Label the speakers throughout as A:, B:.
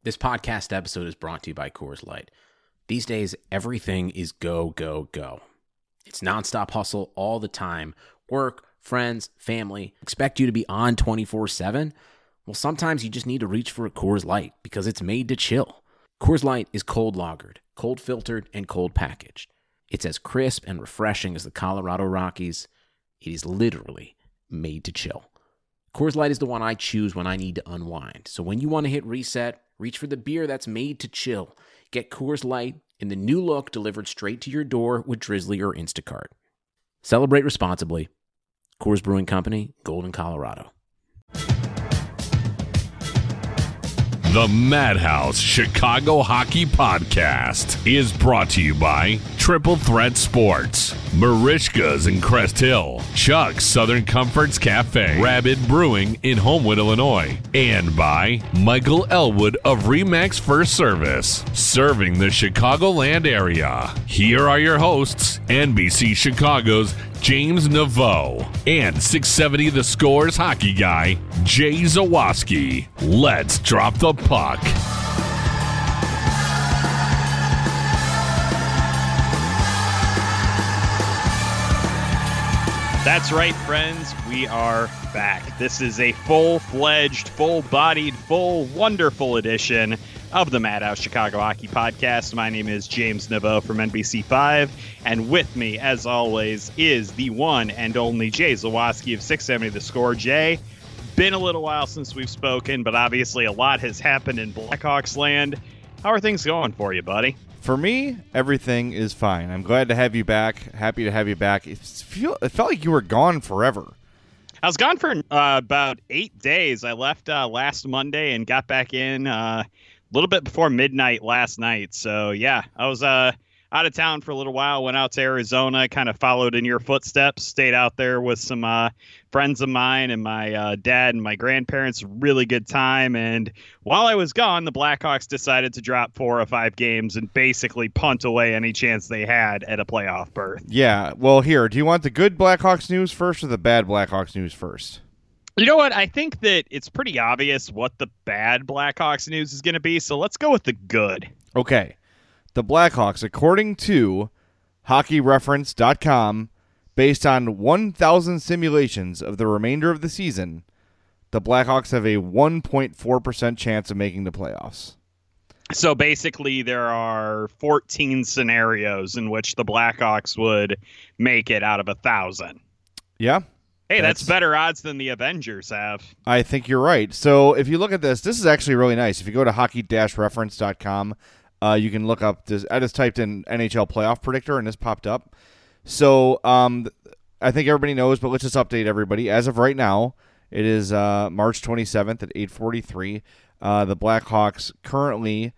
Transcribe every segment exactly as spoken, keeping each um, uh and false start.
A: This podcast episode is brought to you by Coors Light. These days, everything is go, go, go. It's nonstop hustle all the time. Work, friends, family, expect you to be on twenty-four seven. Well, sometimes you just need to reach for a Coors Light because it's made to chill. Coors Light is cold lagered, cold filtered, and cold packaged. It's as crisp and refreshing as the Colorado Rockies. It is literally made to chill. Coors Light is the one I choose when I need to unwind. So when you want to hit reset, reach for the beer that's made to chill. Get Coors Light in the new look delivered straight to your door with Drizzly or Instacart. Celebrate responsibly. Coors Brewing Company, Golden, Colorado.
B: The Madhouse Chicago Hockey Podcast is brought to you by Triple Threat Sports, Marishka's in Crest Hill, Chuck's Southern Comforts Cafe, Rabbit Brewing in Homewood, Illinois, and by Michael Elwood of Remax First Service, serving the Chicagoland area. Here are your hosts, N B C Chicago's James Naveau and six seventy The Score's hockey guy, Jay Zawaski. Let's drop the puck.
C: That's right, friends. We are back. This is a full-fledged, full-bodied, full, wonderful edition of the Madhouse Chicago Hockey Podcast. My name is James Naveau from N B C five, and with me, as always, is the one and only Jay Zawaski of six seventy The Score. Jay, been a little while since we've spoken, but obviously a lot has happened in Blackhawks land. How are things going for you, buddy?
D: For me, everything is fine. I'm glad to have you back. Happy to have you back. It, feel, it felt like you were gone forever.
C: I was gone for uh, about eight days. I left uh, last Monday and got back in uh, a little bit before midnight last night. So, yeah, I was uh, out of town for a little while, went out to Arizona, kind of followed in your footsteps, stayed out there with some uh, friends of mine and my uh, dad and my grandparents. Really good time. And while I was gone, the Blackhawks decided to drop four or five games and basically punt away any chance they had at a playoff berth.
D: Yeah, well, here, do you want the good Blackhawks news first or the bad Blackhawks news first?
C: You know what? I think that it's pretty obvious what the bad Blackhawks news is going to be, so let's go with the good.
D: Okay. The Blackhawks, according to hockey reference dot com, based on one thousand simulations of the remainder of the season, the Blackhawks have a one point four percent chance of making the playoffs.
C: So basically there are fourteen scenarios in which the Blackhawks would make it out of a thousand.
D: Yeah.
C: Hey, that's, that's better odds than the Avengers have.
D: I think you're right. So if you look at this, this is actually really nice. If you go to hockey reference dot com, uh, you can look up this. I just typed in N H L playoff predictor and this popped up. So um, I think everybody knows, but let's just update everybody. As of right now, it is uh, March twenty-seventh at eight forty-three. Uh, the Blackhawks currently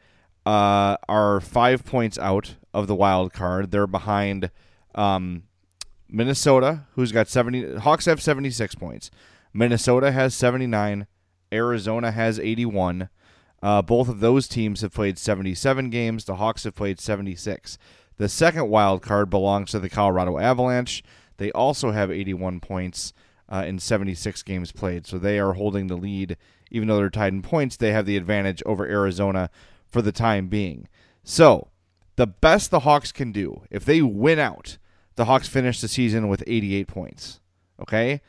D: uh, are five points out of the wild card. They're behind um, Minnesota, who's got seventy. Hawks have seventy-six points. Minnesota has seventy-nine. Arizona has eighty-one. Uh, both of those teams have played seventy-seven games. The Hawks have played seventy-six. The second wild card belongs to the Colorado Avalanche. They also have eighty-one points uh, in seventy-six games played. So they are holding the lead. Even though they're tied in points, they have the advantage over Arizona for the time being. So the best the Hawks can do, if they win out, the Hawks finish the season with eighty-eight points. Okay?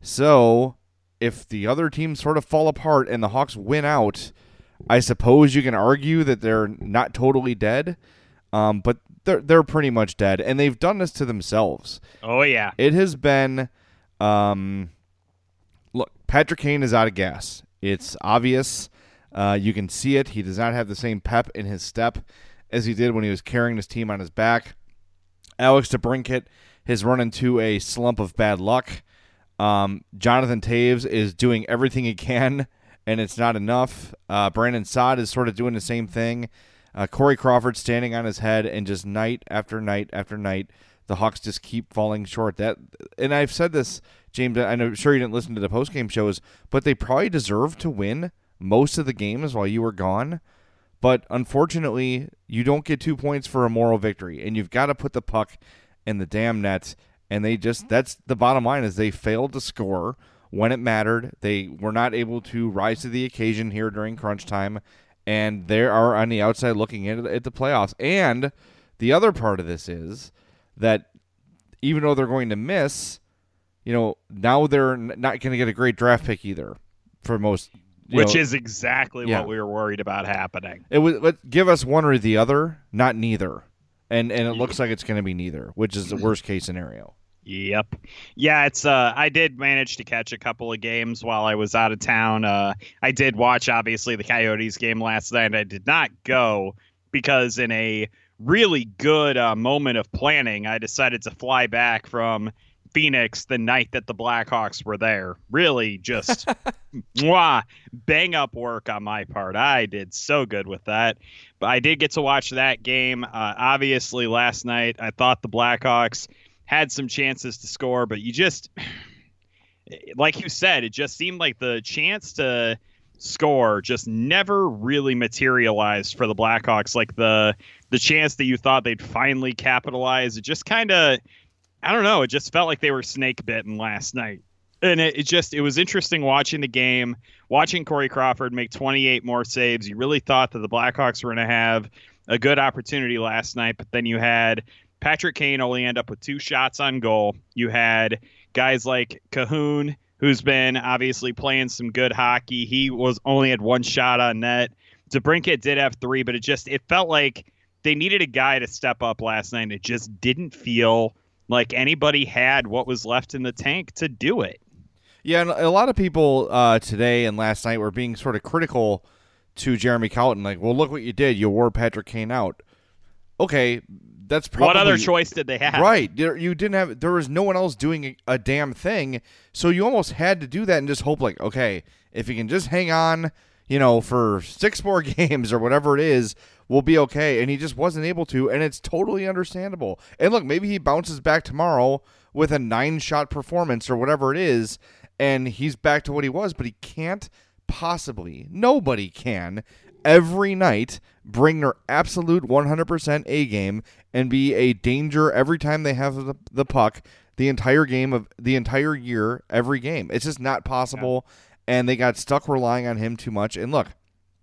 D: So if the other teams sort of fall apart and the Hawks win out, I suppose you can argue that they're not totally dead, um, but they're they're pretty much dead, and they've done this to themselves.
C: Oh yeah,
D: it has been. Um, look, Patrick Kane is out of gas. It's obvious. Uh, you can see it. He does not have the same pep in his step as he did when he was carrying his team on his back. Alex DeBrincat has run into a slump of bad luck. Um, Jonathan Toews is doing everything he can, and it's not enough. Uh, Brandon Saad is sort of doing the same thing. Uh, Corey Crawford standing on his head, and just night after night after night, the Hawks just keep falling short. That, and I've said this, James, I'm sure you didn't listen to the postgame shows, but they probably deserve to win most of the games while you were gone. But unfortunately, you don't get two points for a moral victory, and you've got to put the puck in the damn net. And they just, that's the bottom line, is they failed to score when it mattered. They were not able to rise to the occasion here during crunch time, and they are on the outside looking in at the playoffs. And the other part of this is that even though they're going to miss, you know, now they're not going to get a great draft pick either for most.
C: Which
D: know,
C: is exactly
D: yeah.
C: what we were worried about happening.
D: It would let, give us one or the other, not neither. And and it looks like it's going to be neither, which is the worst case scenario.
C: Yep. Yeah, it's uh I did manage to catch a couple of games while I was out of town. Uh I did watch obviously the Coyotes game last night. I did not go because in a really good uh, moment of planning, I decided to fly back from Phoenix the night that the Blackhawks were there. Really just mwah, bang up work on my part. I did so good with that. But I did get to watch that game. Uh, obviously, last night, I thought the Blackhawks had some chances to score, but you just, like you said, it just seemed like the chance to score just never really materialized for the Blackhawks. Like the the chance that you thought they'd finally capitalize, it just kind of, I don't know. It just felt like they were snake bitten last night. And it, it just, it was interesting watching the game, watching Corey Crawford make twenty-eight more saves. You really thought that the Blackhawks were going to have a good opportunity last night, but then you had Patrick Kane only end up with two shots on goal. You had guys like Cahoon, who's been obviously playing some good hockey. He was only had one shot on net. DeBrincat did have three, but it just, it felt like they needed a guy to step up last night. It just didn't feel like anybody had what was left in the tank to do it.
D: Yeah, and a lot of people uh, today and last night were being sort of critical to Jeremy Colliton. Like, well, look what you did. You wore Patrick Kane out. Okay, that's probably...
C: What other choice did they have?
D: Right. You didn't have... There was no one else doing a damn thing, so you almost had to do that and just hope, like, okay, if you can just hang on, you know, for six more games or whatever it is, we'll be okay. And he just wasn't able to, and it's totally understandable. And look, maybe he bounces back tomorrow with a nine-shot performance or whatever it is, and he's back to what he was, but he can't possibly, nobody can, every night bring their absolute one hundred percent A game and be a danger every time they have the, the puck the entire game of the entire year, every game. It's just not possible, yeah. And they got stuck relying on him too much. And look,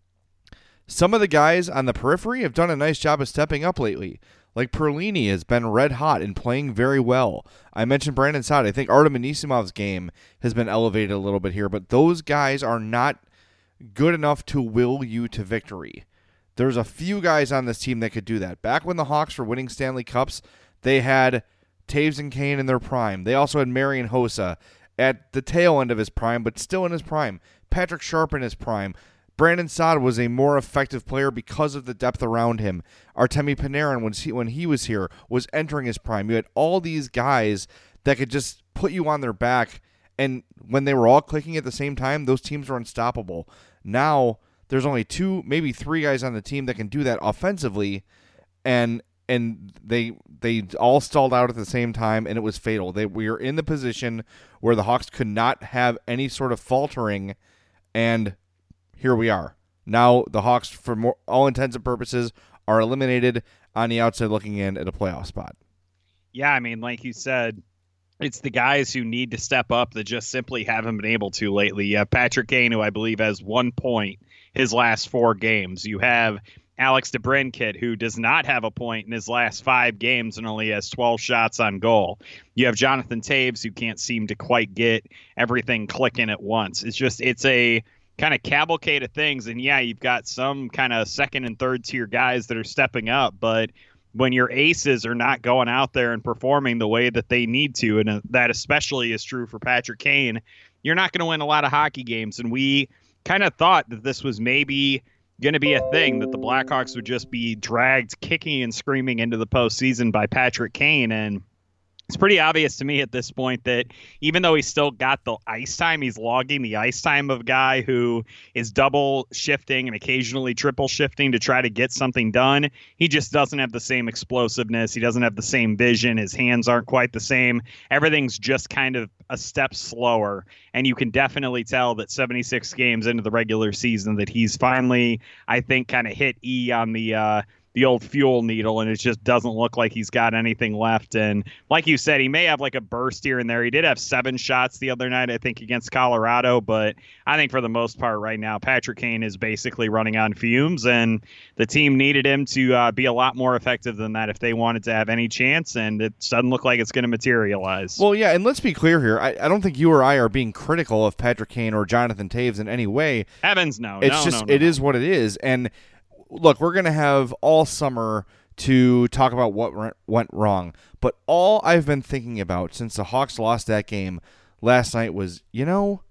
D: some of the guys on the periphery have done a nice job of stepping up lately. Like Perlini has been red hot and playing very well. I mentioned Brandon Saad. I think Artem Anisimov's game has been elevated a little bit here, but those guys are not good enough to will you to victory. There's a few guys on this team that could do that. Back when the Hawks were winning Stanley Cups, they had Taves and Kane in their prime. They also had Marian Hossa at the tail end of his prime, but still in his prime. Patrick Sharp in his prime. Brandon Saad was a more effective player because of the depth around him. Artemi Panarin, when he, when he was here, was entering his prime. You had all these guys that could just put you on their back, and when they were all clicking at the same time, those teams were unstoppable. Now, there's only two, maybe three guys on the team that can do that offensively, and and they they all stalled out at the same time, and it was fatal. They we were in the position where the Hawks could not have any sort of faltering, and here we are. Now the Hawks, for more, all intents and purposes, are eliminated on the outside looking in at a playoff spot.
C: Yeah, I mean, like you said, it's the guys who need to step up that just simply haven't been able to lately. You have Patrick Kane, who I believe has one point his last four games. You have Alex DeBrincat, who does not have a point in his last five games and only has twelve shots on goal. You have Jonathan Taves, who can't seem to quite get everything clicking at once. It's just, it's a kind of cavalcade of things. And yeah, you've got some kind of second and third tier guys that are stepping up, but when your aces are not going out there and performing the way that they need to, and that especially is true for Patrick Kane, you're not going to win a lot of hockey games. And we kind of thought that this was maybe going to be a thing, that the Blackhawks would just be dragged kicking and screaming into the postseason by Patrick Kane. And it's pretty obvious to me at this point that even though he's still got the ice time, he's logging the ice time of a guy who is double shifting and occasionally triple shifting to try to get something done. He just doesn't have the same explosiveness. He doesn't have the same vision. His hands aren't quite the same. Everything's just kind of a step slower. And you can definitely tell that seventy-six games into the regular season that he's finally, I think, kind of hit E on the uh, the old fuel needle, and it just doesn't look like he's got anything left. And like you said, he may have like a burst here and there. He did have seven shots the other night, I think, against Colorado, but I think for the most part right now, Patrick Kane is basically running on fumes, and the team needed him to uh, be a lot more effective than that if they wanted to have any chance, and it doesn't look like it's going to materialize.
D: Well, yeah, and let's be clear here. I, I don't think you or I are being critical of Patrick Kane or Jonathan Toews in any way.
C: Heavens, no.
D: It's
C: no,
D: just,
C: no, no,
D: it
C: no.
D: is what it is. And look, we're going to have all summer to talk about what went wrong. But all I've been thinking about since the Hawks lost that game last night was, you know,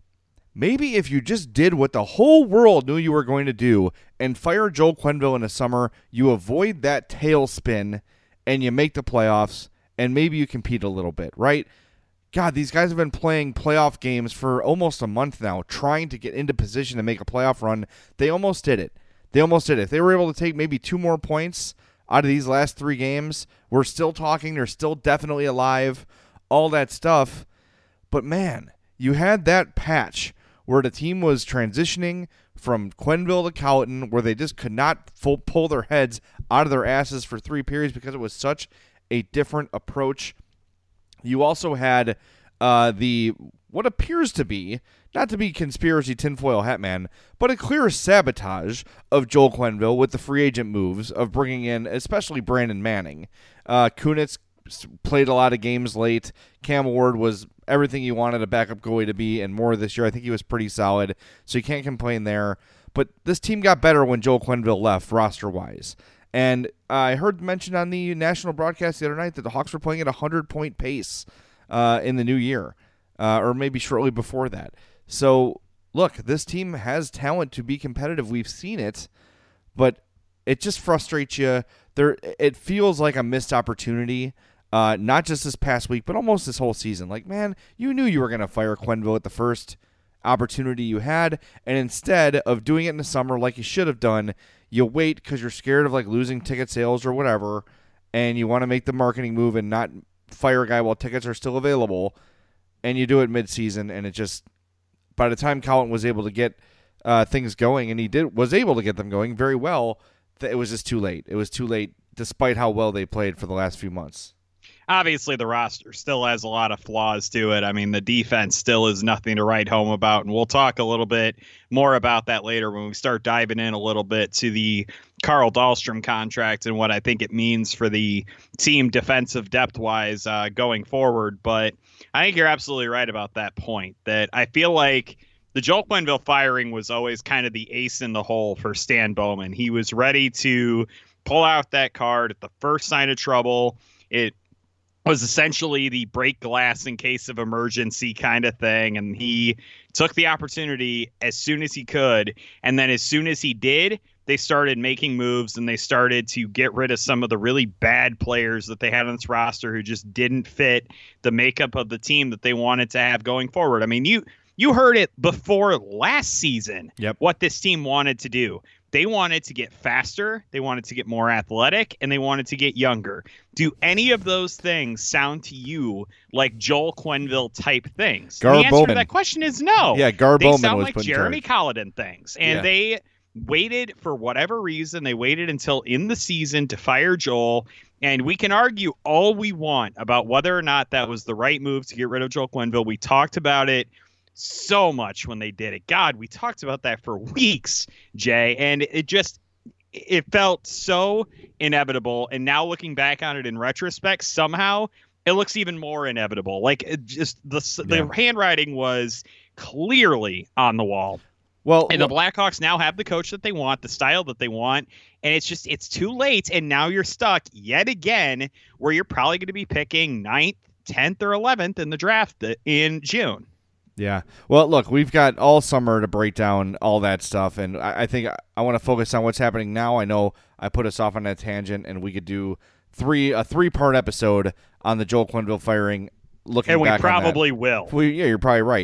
D: maybe if you just did what the whole world knew you were going to do and fire Joel Quenneville in the summer, you avoid that tailspin and you make the playoffs and maybe you compete a little bit, right? God, these guys have been playing playoff games for almost a month now, trying to get into position to make a playoff run. They almost did it. They almost did it. If they were able to take maybe two more points out of these last three games, we're still talking. They're still definitely alive, all that stuff. But, man, you had that patch where the team was transitioning from Quenneville to Colliton, where they just could not full pull their heads out of their asses for three periods because it was such a different approach. You also had uh, the what appears to be, not to be conspiracy tinfoil hat man, but a clear sabotage of Joel Quenneville with the free agent moves of bringing in especially Brandon Manning. Uh, Kunitz played a lot of games late. Cam Ward was everything you wanted a backup goalie to be and more this year. I think he was pretty solid, so you can't complain there. But this team got better when Joel Quenneville left roster-wise. And I heard mentioned on the national broadcast the other night that the Hawks were playing at a hundred-point pace uh, in the new year, uh, or maybe shortly before that. So, look, this team has talent to be competitive. We've seen it, but it just frustrates you. There, it feels like a missed opportunity, uh, not just this past week, but almost this whole season. Like, man, you knew you were going to fire Quenneville at the first opportunity you had, and instead of doing it in the summer like you should have done, you wait because you're scared of like losing ticket sales or whatever, and you want to make the marketing move and not fire a guy while tickets are still available, and you do it mid-season, and it just, by the time Colliton was able to get uh, things going, and he did was able to get them going very well, th- it was just too late. It was too late, despite how well they played for the last few months.
C: Obviously, the roster still has a lot of flaws to it. I mean, the defense still is nothing to write home about, and we'll talk a little bit more about that later when we start diving in a little bit to the Carl Dahlstrom contract and what I think it means for the team defensive depth-wise uh, going forward. But I think you're absolutely right about that point, that I feel like the Joel Quenneville firing was always kind of the ace in the hole for Stan Bowman. He was ready to pull out that card at the first sign of trouble. It was essentially the break glass in case of emergency kind of thing. And he took the opportunity as soon as he could. And then as soon as he did, they started making moves and they started to get rid of some of the really bad players that they had on this roster who just didn't fit the makeup of the team that they wanted to have going forward. I mean, you you heard it before last season,
D: yep.
C: what this team wanted to do. They wanted to get faster, they wanted to get more athletic, and they wanted to get younger. Do any of those things sound to you like Joel Quenneville type things?
D: Gar
C: the answer
D: Bowman.
C: to that question is no.
D: Yeah, Gar
C: they
D: Bowman
C: sound
D: was
C: like
D: put in
C: Jeremy
D: charge.
C: Colliton things. And
D: Yeah.
C: they waited for whatever reason. They waited until in the season to fire Joel. And we can argue all we want about whether or not that was the right move to get rid of Joel Quenneville. We talked about it so much when they did it. God, we talked about that for weeks, Jay. And it just, it felt so inevitable. And now looking back on it in retrospect, somehow it looks even more inevitable. Like it just the,
D: Yeah.
C: the handwriting was clearly on the wall.
D: Well,
C: And the Blackhawks now have the coach that they want, the style that they want, and it's just it's too late. And now you're stuck yet again where you're probably going to be picking ninth, tenth, or eleventh in the draft in June.
D: Yeah. Well, look, we've got all summer to break down all that stuff, and I, I think I, I want to focus on what's happening now. I know I put us off on that tangent, and we could do three a three part episode on the Joel Quenneville firing. Looking
C: And we
D: back on that.
C: probably will.
D: We, yeah, you're probably right.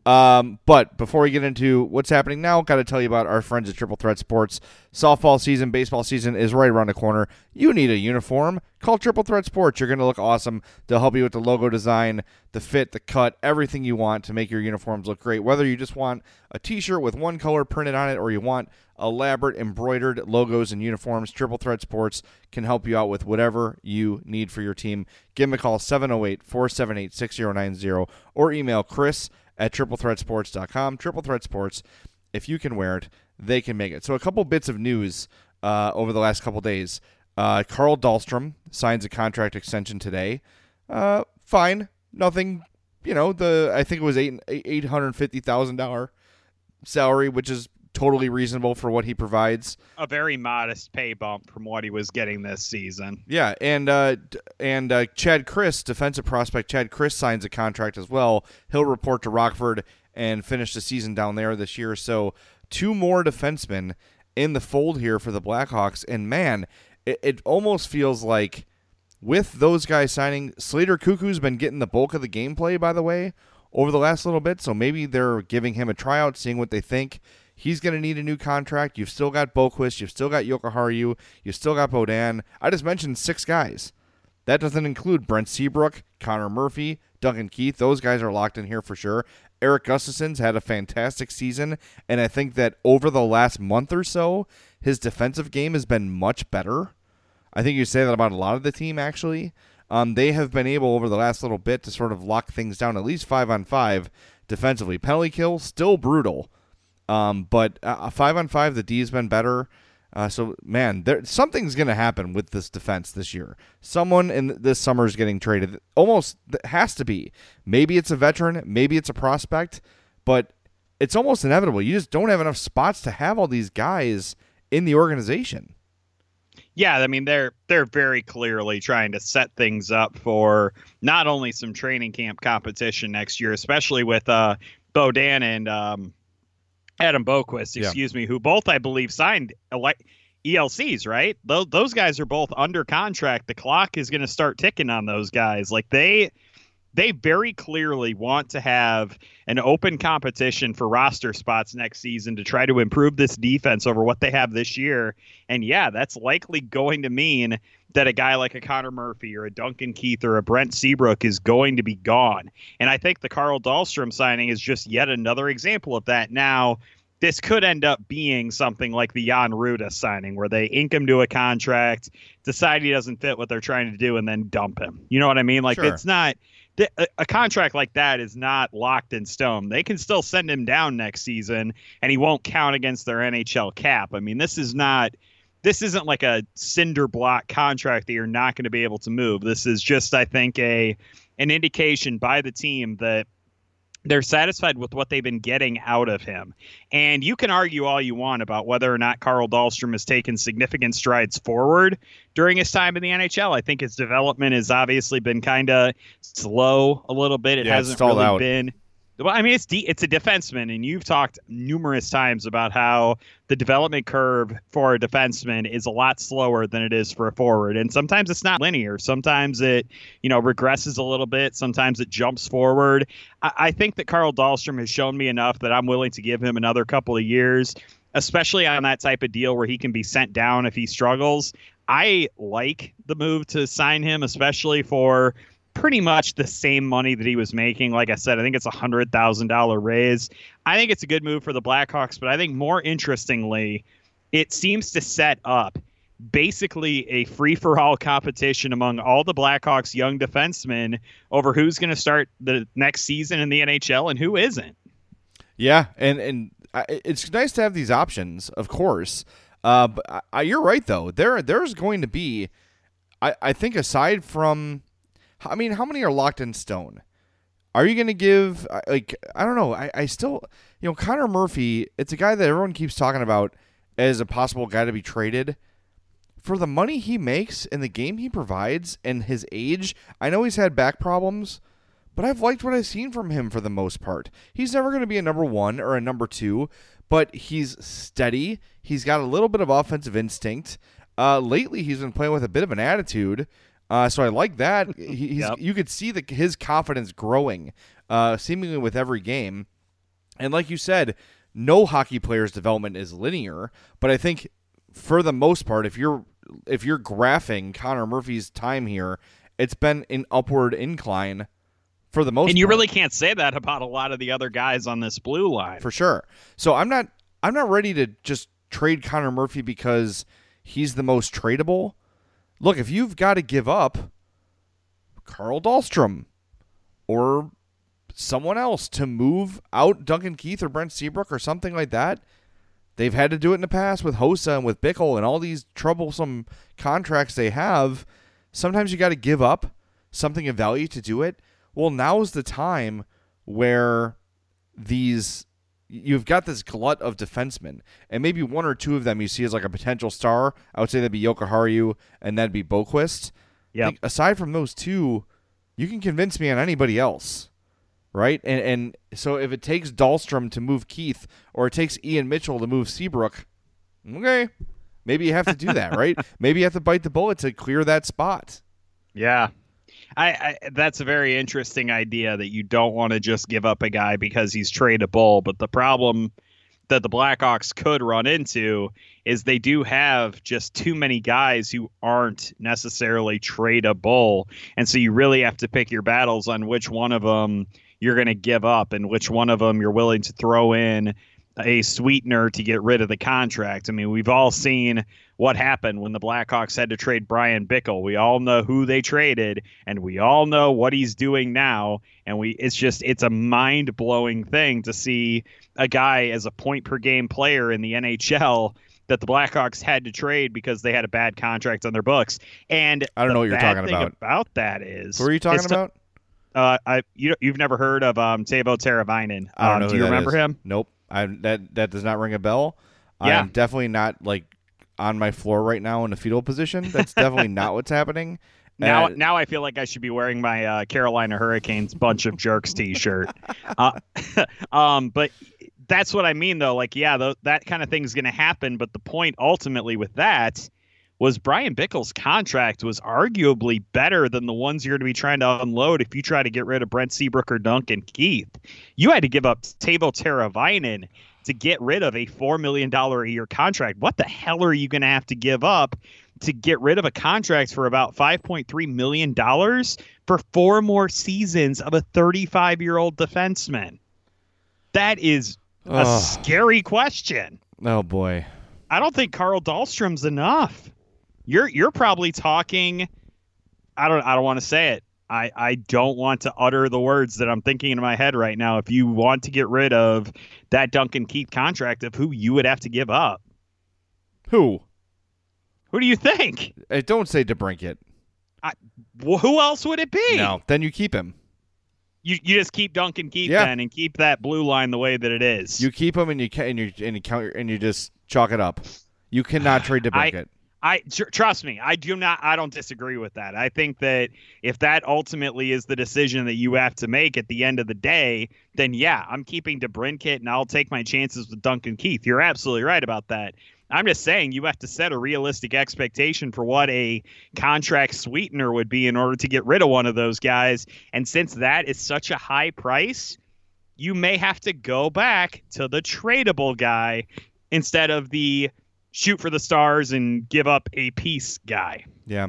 D: Um, but before we get into what's happening now, got to tell you about our friends at Triple Threat Sports. Softball season, baseball season is right around the corner. You need a uniform. Call Triple Threat Sports. You're going to look awesome. They'll help you with the logo design, the fit, the cut, everything you want to make your uniforms look great. Whether you just want a t-shirt with one color printed on it or you want elaborate embroidered logos and uniforms, Triple Threat Sports can help you out with whatever you need for your team. Give them a call, seven oh eight, four seven eight, six oh nine oh, or email Chris at triple threat sports dot com. Triple Threat Sports, if you can wear it, they can make it. So a couple bits of news uh, over the last couple days. Uh, Carl Dahlstrom signs a contract extension today. Uh, fine. Nothing, you know, the I think it was eight eight hundred fifty thousand dollars salary, which is totally reasonable for what he provides.
C: A very modest pay bump from what he was getting this season.
D: Yeah, and uh, and uh, Chad Chris, defensive prospect Chad Chris, signs a contract as well. He'll report to Rockford and finish the season down there this year. So two more defensemen in the fold here for the Blackhawks. And, man, it, it almost feels like with those guys signing, Slater Cuckoo's been getting the bulk of the gameplay, by the way, over the last little bit. So maybe they're giving him a tryout, seeing what they think. He's going to need a new contract. You've still got Boquist. You've still got Jokiharju. You've still got Beaudin. I just mentioned six guys. That doesn't include Brent Seabrook, Connor Murphy, Duncan Keith. Those guys are locked in here for sure. Eric Gustafson's had a fantastic season, and I think that over the last month or so, his defensive game has been much better. I think you say that about a lot of the team, actually. Um, they have been able over the last little bit to sort of lock things down, at least five on five defensively. Penalty kill, still brutal. Um, but uh, five on five, the D has been better. Uh, so, man, there something's going to happen with this defense this year. Someone in this summer is getting traded. Almost has to be. Maybe it's a veteran. Maybe it's a prospect. But it's almost inevitable. You just don't have enough spots to have all these guys in the organization.
C: Yeah, I mean, they're they're very clearly trying to set things up for not only some training camp competition next year, especially with uh, Beaudin and um, Adam Boquist, excuse yeah. me, who both, I believe, signed E L Cs, right? Those, those guys are both under contract. The clock is going to start ticking on those guys. Like, they they very clearly want to have an open competition for roster spots next season to try to improve this defense over what they have this year. And, yeah, that's likely going to mean that a guy like a Connor Murphy or a Duncan Keith or a Brent Seabrook is going to be gone. And I think the Carl Dahlstrom signing is just yet another example of that. Now, this could end up being something like the Jan Ruda signing, where they ink him to a contract, decide he doesn't fit what they're trying to do, and then dump him. You know what I mean? Like, sure. It's not a, a contract like that is not locked in stone. They can still send him down next season, and he won't count against their N H L cap. I mean, this is not. This isn't like a cinder block contract that you're not going to be able to move. This is just, I think, a an indication by the team that they're satisfied with what they've been getting out of him. And you can argue all you want about whether or not Carl Dahlstrom has taken significant strides forward during his time in the N H L. I think his development has obviously been kind of slow a little bit. It
D: yeah,
C: hasn't really
D: out.
C: been. Well, I mean, it's de- it's a defenseman, and you've talked numerous times about how the development curve for a defenseman is a lot slower than it is for a forward. And sometimes it's not linear. Sometimes it, you know, regresses a little bit. Sometimes it jumps forward. I, I think that Carl Dahlstrom has shown me enough that I'm willing to give him another couple of years, especially on that type of deal where he can be sent down if he struggles. I like the move to sign him, especially for pretty much the same money that he was making. Like I said, I think it's a one hundred thousand dollars raise. I think it's a good move for the Blackhawks, but I think more interestingly, it seems to set up basically a free-for-all competition among all the Blackhawks young defensemen over who's going to start the next season in the N H L and who isn't.
D: Yeah, and, and it's nice to have these options, of course. Uh, but I, you're right, though. There, There's going to be, I, I think aside from, I mean, how many are locked in stone? Are you going to give, like, I don't know. I, I still, you know, Connor Murphy, it's a guy that everyone keeps talking about as a possible guy to be traded. For the money he makes and the game he provides and his age, I know he's had back problems, but I've liked what I've seen from him for the most part. He's never going to be a number one or a number two, but he's steady. He's got a little bit of offensive instinct. Uh, lately, he's been playing with a bit of an attitude. Uh, so I like that. He, he's,
C: yep.
D: You could see the, his confidence growing, uh, seemingly with every game. And like you said, no hockey player's development is linear, but I think for the most part, if you're if you're graphing Connor Murphy's time here, it's been an upward incline for the most part.
C: And you really can't say that about a lot of the other guys on this blue line.
D: For sure. So I'm not I'm not ready to just trade Connor Murphy because he's the most tradable. Look, if you've got to give up Carl Dahlstrom or someone else to move out Duncan Keith or Brent Seabrook or something like that. They've had to do it in the past with Hossa and with Bickle and all these troublesome contracts they have. Sometimes you got to give up something of value to do it. Well, now's the time where these you've got this glut of defensemen, and maybe one or two of them you see as like a potential star. I would say that'd be Jokiharju and that'd be Boquist.
C: Yeah.
D: Aside from those two, you can convince me on anybody else. Right? And and so if it takes Dahlstrom to move Keith or it takes Ian Mitchell to move Seabrook, okay, maybe you have to do that, right? Maybe you have to bite the bullet to clear that spot.
C: Yeah. I, I that's a very interesting idea that you don't want to just give up a guy because he's tradable. But the problem that the Blackhawks could run into is they do have just too many guys who aren't necessarily tradable. And so you really have to pick your battles on which one of them you're going to give up and which one of them you're willing to throw in a sweetener to get rid of the contract. I mean, we've all seen what happened when the Blackhawks had to trade Brian Bickle. We all know who they traded, and we all know what he's doing now. And we it's just it's a mind-blowing thing to see a guy as a point per game player in the N H L that the Blackhawks had to trade because they had a bad contract on their books. And
D: I don't know what you're talking
C: thing
D: about.
C: About that is
D: Who are you talking about?
C: Uh, I you you've never heard of um Teuvo Teravainen?
D: I don't
C: um,
D: know
C: do
D: who
C: you
D: that
C: remember
D: is.
C: him?
D: Nope. I that that does not ring a bell.
C: Yeah.
D: I'm definitely not like on my floor right now in a fetal position. That's definitely not what's happening.
C: Now,
D: Uh,
C: now I feel like I should be wearing my uh, Carolina Hurricanes bunch of jerks T-shirt. uh, um, but that's what I mean, though. Like, yeah, th- that kind of thing is going to happen. But the point ultimately with that was Brian Bickle's contract was arguably better than the ones you're going to be trying to unload if you try to get rid of Brent Seabrook or Duncan Keith. You had to give up Teuvo Teravainen to get rid of a four million dollars a year contract. What the hell are you going to have to give up to get rid of a contract for about five point three million dollars for four more seasons of a thirty-five-year-old defenseman? That is a
D: Ugh.
C: scary question.
D: Oh boy.
C: I don't think Carl Dahlstrom's enough. You're you're probably talking. I don't I don't want to say it. I, I don't want to utter the words that I'm thinking in my head right now. If you want to get rid of that Duncan Keith contract, of who you would have to give up.
D: Who?
C: Who do you think?
D: Hey, don't say DeBrincat.
C: I, well, who else would it be?
D: No, then you keep him.
C: You you just keep Duncan Keith
D: Yeah.
C: then and keep that blue line the way that it is.
D: You keep him and you can and you and you count and you just chalk it up. You cannot trade DeBrincat.
C: I tr- trust me. I do not. I don't disagree with that. I think that if that ultimately is the decision that you have to make at the end of the day, then yeah, I'm keeping DeBrincat and I'll take my chances with Duncan Keith. You're absolutely right about that. I'm just saying you have to set a realistic expectation for what a contract sweetener would be in order to get rid of one of those guys. And since that is such a high price, you may have to go back to the tradable guy instead of the shoot for the stars and give up a piece guy.
D: Yeah.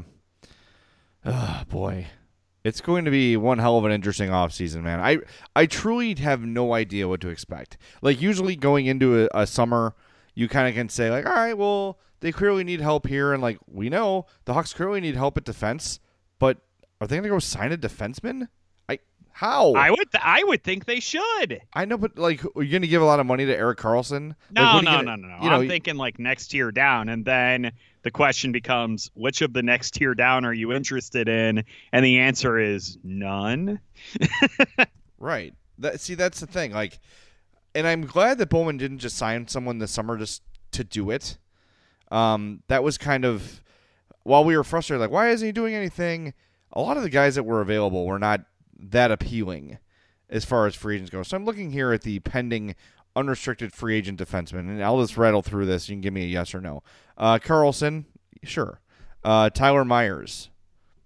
D: Oh, boy. It's going to be one hell of an interesting offseason, man. I I truly have no idea what to expect. Like, usually going into a, a summer, you kind of can say, like, all right, well, they clearly need help here. And, like, we know the Hawks clearly need help at defense. But are they going to go sign a defenseman? I How?
C: I would th- I would think they should.
D: I know, but, like, are you going to give a lot of money to Erik Karlsson?
C: No,
D: like, what are
C: no,
D: you gonna,
C: no, no, no.
D: You know,
C: I'm thinking, like, next tier down. And then the question becomes, which of the next tier down are you interested in? And the answer is none.
D: Right. That, see, that's the thing. Like, and I'm glad that Bowman didn't just sign someone this summer just to do it. Um, that was kind of, while we were frustrated, like, why isn't he doing anything? A lot of the guys that were available were not that appealing as far as free agents go. So I'm looking here at the pending unrestricted free agent defenseman, and I'll just rattle through this. You can give me a yes or no. Uh, Karlsson, sure. Uh, Tyler Myers,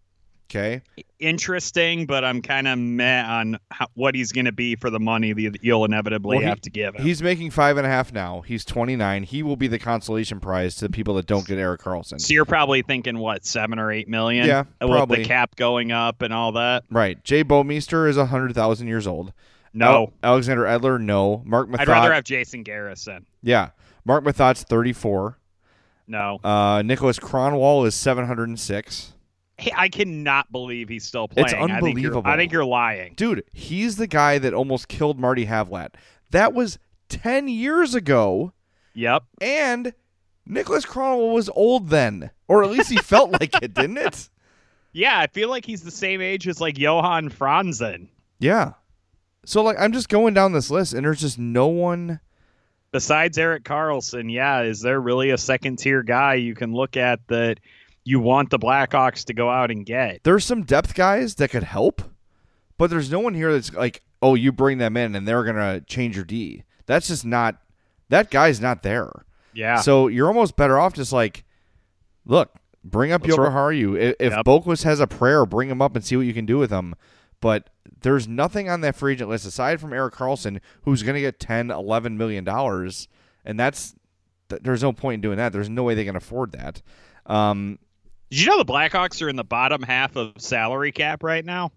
D: Okay.
C: Interesting, but I'm kind of meh on how, what he's going to be for the money that you'll inevitably
D: Well, he-
C: have to give him.
D: He's making five and a half now. He's twenty-nine. He will be the consolation prize to the people that don't get Erik Karlsson.
C: So you're probably thinking, what, seven or eight million?
D: Yeah,
C: With
D: probably.
C: the cap going up and all that?
D: Right. Jay Bouwmeester is one hundred thousand years old.
C: No.
D: Al- Alexander Edler, no. Mark Mathot.
C: I'd rather have Jason Garrison.
D: Yeah. Mark Mathot's thirty-four.
C: No.
D: Uh, Nicholas Kronwall is seven hundred six.
C: Hey, I cannot believe he's still playing.
D: It's
C: I think, you're,
D: unbelievable.
C: I think you're lying.
D: Dude, he's the guy that almost killed Marty Havlat. That was ten years ago,
C: Yep.
D: and Nicholas Kronwall was old then. Or at least he felt like it, didn't it?
C: Yeah, I feel like he's the same age as like Johan Franzen.
D: Yeah. So, like, I'm just going down this list, and there's just no one.
C: Besides Erik Karlsson, yeah, is there really a second tier guy you can look at that you want the Blackhawks to go out and get?
D: There's some depth guys that could help, but there's no one here that's like, oh, you bring them in and they're going to change your D. That's just not, that guy's not there.
C: Yeah.
D: So you're almost better off just like, look, bring up
C: Let's
D: Yoko
C: ro-
D: Haru. If, if
C: Yep.
D: Boquist has a prayer, bring him up and see what you can do with him. But there's nothing on that free agent list aside from Erik Karlsson, who's going to get ten, eleven million dollars, and that's th- there's no point in doing that. There's no way they can afford that. Um,
C: Did you know the Blackhawks are in the bottom half of salary cap right now?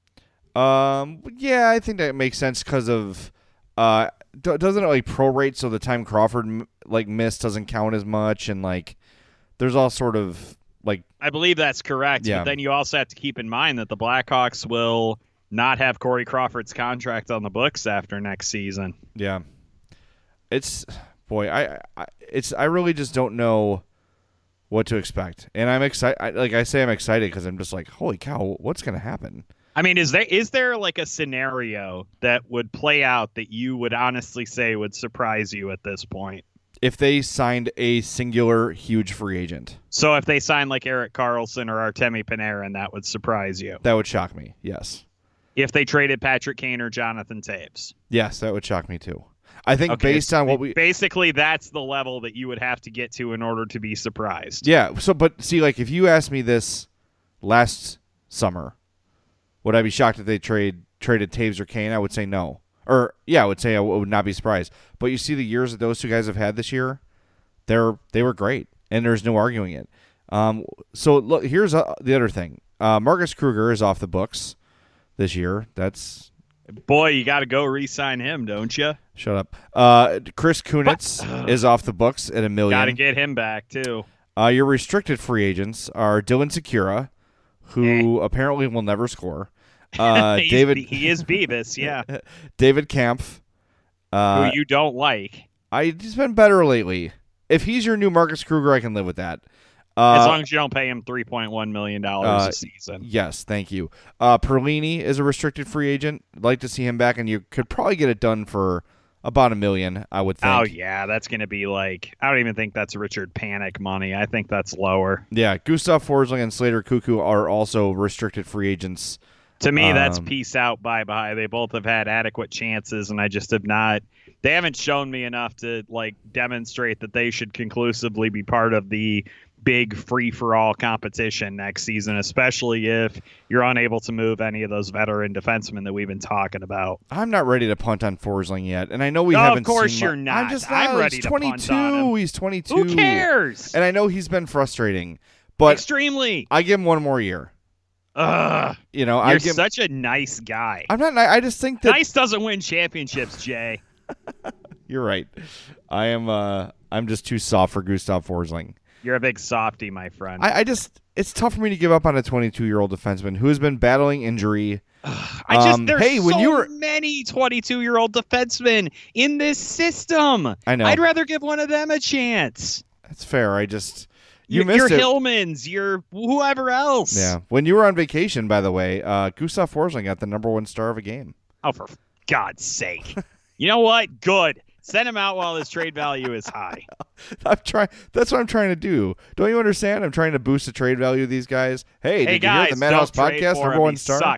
D: Um. Yeah, I think that makes sense because of uh, d- doesn't it like prorate so the time Crawford m- like missed doesn't count as much, and like there's all sort of like
C: I believe that's correct.
D: Yeah.
C: But then you also have to keep in mind that the Blackhawks will not have Corey Crawford's contract on the books after next season.
D: yeah, it's boy, I, I it's I really just don't know what to expect, and I'm excited. Like I say, I'm excited because I'm just like, holy cow, what's gonna happen?
C: I mean, is there is there like a scenario that would play out that you would honestly say would surprise you at this point?
D: If they signed a singular huge free agent,
C: So if they sign like Erik Karlsson or Artemi Panarin, that would surprise you.
D: that would shock me. Yes,
C: If they traded Patrick Kane or Jonathan Taves.
D: yes, that would shock me too. I think
C: Okay,
D: based on what we
C: basically that's the level that you would have to get to in order to be surprised.
D: Yeah. So, but see, like, if you asked me this last summer, would I be shocked if they trade traded Taves or Kane? I would say no. Or yeah, I would say I w- would not be surprised. But you see the years that those two guys have had this year, they're they were great, and there's no arguing it. Um. So look, here's uh, the other thing. Uh, Marcus Kruger is off the books this year. That's
C: Boy, you got to go re-sign him, don't you?
D: shut up. Uh, Chris Kunitz is off the books at a million.
C: Got to get him back too.
D: Uh, your restricted free agents are Dylan Secura, who apparently will never score. Uh,
C: He's-
D: David
C: he is Beavis, yeah.
D: David Kampf. Uh,
C: Who you don't like,
D: I he's been better lately. If he's your new Marcus Kruger, I can live with that. Uh,
C: as long as you don't pay him three point one million dollars
D: uh,
C: a season.
D: yes, thank you. Uh, Perlini is a restricted free agent. I'd like to see him back, and you could probably get it done for about a million, I would think.
C: Oh yeah, that's going to be like I don't even think that's Richard Panic money. I think that's lower.
D: Yeah, Gustav Forsling and Slater Cuckoo are also restricted free agents.
C: To me, that's
D: Um,
C: peace out, bye bye. They both have had adequate chances, and I just have not. They haven't shown me enough to like demonstrate that they should conclusively be part of the big free for all competition next season, especially if you're unable to move any of those veteran defensemen that we've been talking about.
D: I'm not ready to punt on Forsling yet, and I know we
C: No,
D: haven't.
C: of course
D: seen
C: you're
D: mu-
C: not.
D: I'm just
C: I'm
D: not.
C: ready
D: He's
C: to punt
D: twenty-two.
C: on him.
D: He's twenty-two.
C: Who cares?
D: And I know he's been frustrating, but
C: Extremely.
D: I give him one more year.
C: Ugh.
D: You know, I
C: You're
D: give.
C: such a nice guy.
D: I'm not. I just think that
C: Nice doesn't win championships, Jay.
D: you're right. I am. Uh, I'm just too soft for Gustav Forsling.
C: You're a big softy, my friend.
D: I, I just. It's tough for me to give up on a twenty-two-year-old defenseman who has been battling injury.
C: I just
D: Um,
C: there's
D: hey, when
C: so
D: you were-
C: many twenty-two-year-old defensemen in this system.
D: I know.
C: I'd rather give one of them a chance.
D: That's fair. I just. You
C: your,
D: missed
C: your
D: it.
C: Hillmans, your whoever else.
D: Yeah. When you were on vacation, by the way, uh, Gustav Forsling got the number one star of a game.
C: Oh, for God's sake! You know what? Good. Send him out while his trade value is high.
D: I'm trying. That's what I'm trying to do. Don't you understand? I'm trying to boost the trade value of these guys. Hey,
C: Hey
D: did
C: guys,
D: you hear the Madhouse
C: don't trade
D: podcast
C: for
D: number
C: him.
D: one
C: He
D: star?
C: sucks.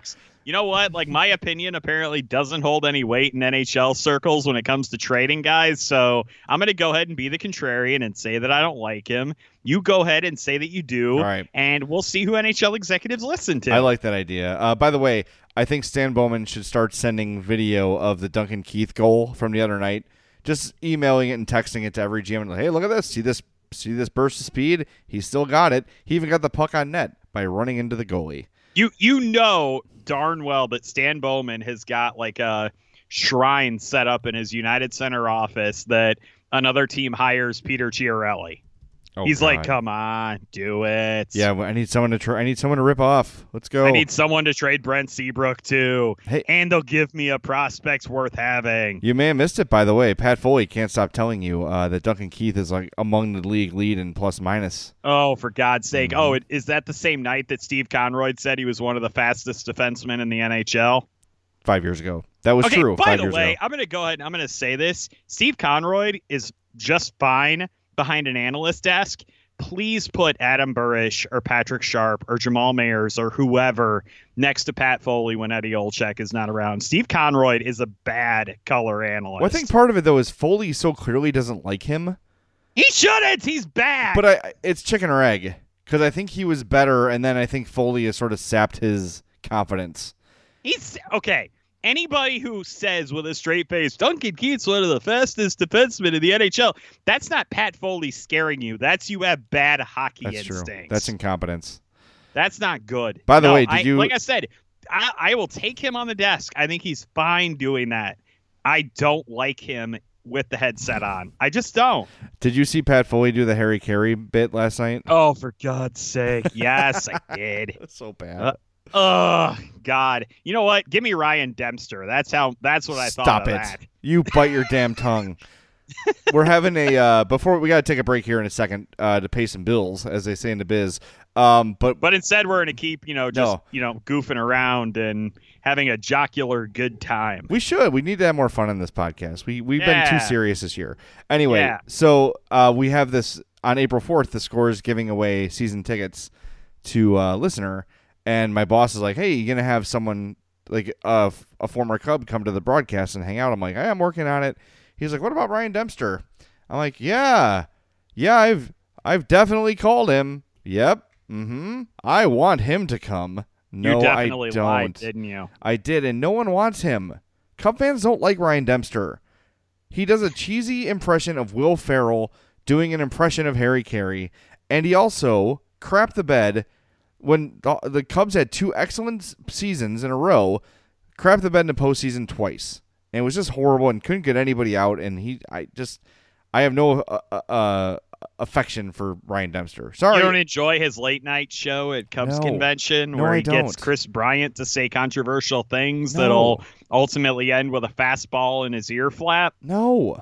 C: You know what? Like, my opinion apparently doesn't hold any weight in N H L circles when it comes to trading guys. So I'm going to go ahead and be the contrarian and say that I don't like him. You go ahead and say that you do.
D: All right.
C: And we'll see who N H L executives listen to.
D: I like that idea. Uh, by the way, I think Stan Bowman should start sending video of the Duncan Keith goal from the other night, just emailing it and texting it to every G M. And like, hey, look at this. See this See this burst of speed? He still got it. He even got the puck on net by running into the goalie.
C: You you know darn well that Stan Bowman has got like a shrine set up in his United Center office that another team hires Peter Chiarelli.
D: Oh,
C: He's
D: God.
C: like, come on, do it.
D: Yeah, well, I need someone to try. I need someone to rip off. Let's go.
C: I need someone to trade Brent Seabrook too.
D: Hey.
C: And they'll give me a prospect worth having.
D: You may have missed it, by the way. Pat Foley can't stop telling you uh, that Duncan Keith is like among the league lead in plus minus.
C: Oh, for God's sake.
D: Mm-hmm.
C: Oh, it, is that the same night that Steve Conroy said he was one of the fastest defensemen in the N H L?
D: Five years ago. That was
C: okay,
D: true.
C: By
D: five
C: the
D: years
C: way,
D: ago.
C: I'm going to go ahead and I'm going to say this. Steve Conroy is just fine behind an analyst desk. Please put Adam Burish or Patrick Sharp or Jamal Mayers or whoever next to Pat Foley when Eddie Olczyk is not around. Steve Conroy is a bad color analyst.
D: Well, I think part of it, though, is Foley so clearly doesn't like him.
C: He shouldn't. He's bad.
D: But I, it's chicken or egg, because I think he was better, and then I think Foley has sort of sapped his confidence.
C: He's okay. Anybody who says with a straight face, Duncan Keith's one of the fastest defensemen in the N H L, that's not Pat Foley scaring you. That's you have bad hockey
D: That's
C: instincts.
D: true. That's incompetence.
C: That's not good.
D: By the
C: No,
D: way, did
C: I,
D: you-
C: Like I said, I, I will take him on the desk. I think he's fine doing that. I don't like him with the headset on. I just don't.
D: Did you see Pat Foley do the Harry Carey bit last night?
C: Oh, for God's sake. Yes, I did.
D: That's so bad.
C: Uh, Oh, God. You know what? Give me Ryan Dempster. That's how. That's what I
D: Stop
C: thought of
D: it.
C: that.
D: You bite your damn tongue. We're having a uh, before we got to take a break here in a second uh, to pay some bills, as they say in the biz. Um, but
C: But instead, we're going to keep, you know, just,
D: No.
C: you know, goofing around and having a jocular good time.
D: we should. We need to have more fun on this podcast. We we've been too
C: Yeah.
D: serious this year. Anyway,
C: Yeah.
D: so uh, we have this on April fourth. The Score is giving away season tickets to uh, listener, and my boss is like, "Hey, you gonna have someone like a, a former Cub come to the broadcast and hang out?" I'm like, "Hey, I'm working on it." He's like, "What about Ryan Dempster?" I'm like, "Yeah, yeah, I've I've definitely called him. Yep, mm-hmm. I want him to come." No,
C: you definitely
D: I don't.
C: lied, didn't you?
D: I did, and no one wants him. Cub fans don't like Ryan Dempster. He does a cheesy impression of Will Ferrell doing an impression of Harry Carey, and he also crapped the bed when the, the Cubs had two excellent seasons in a row, crapped the bed in the postseason twice. And it was just horrible and couldn't get anybody out, and he, I just, I have no uh, uh, affection for Ryan Dempster. Sorry.
C: You don't enjoy his late night show at Cubs
D: No.
C: convention
D: No,
C: where
D: I
C: he gets
D: don't.
C: Chris Bryant to say controversial things
D: No.
C: that'll ultimately end with a fastball in his ear flap?
D: No.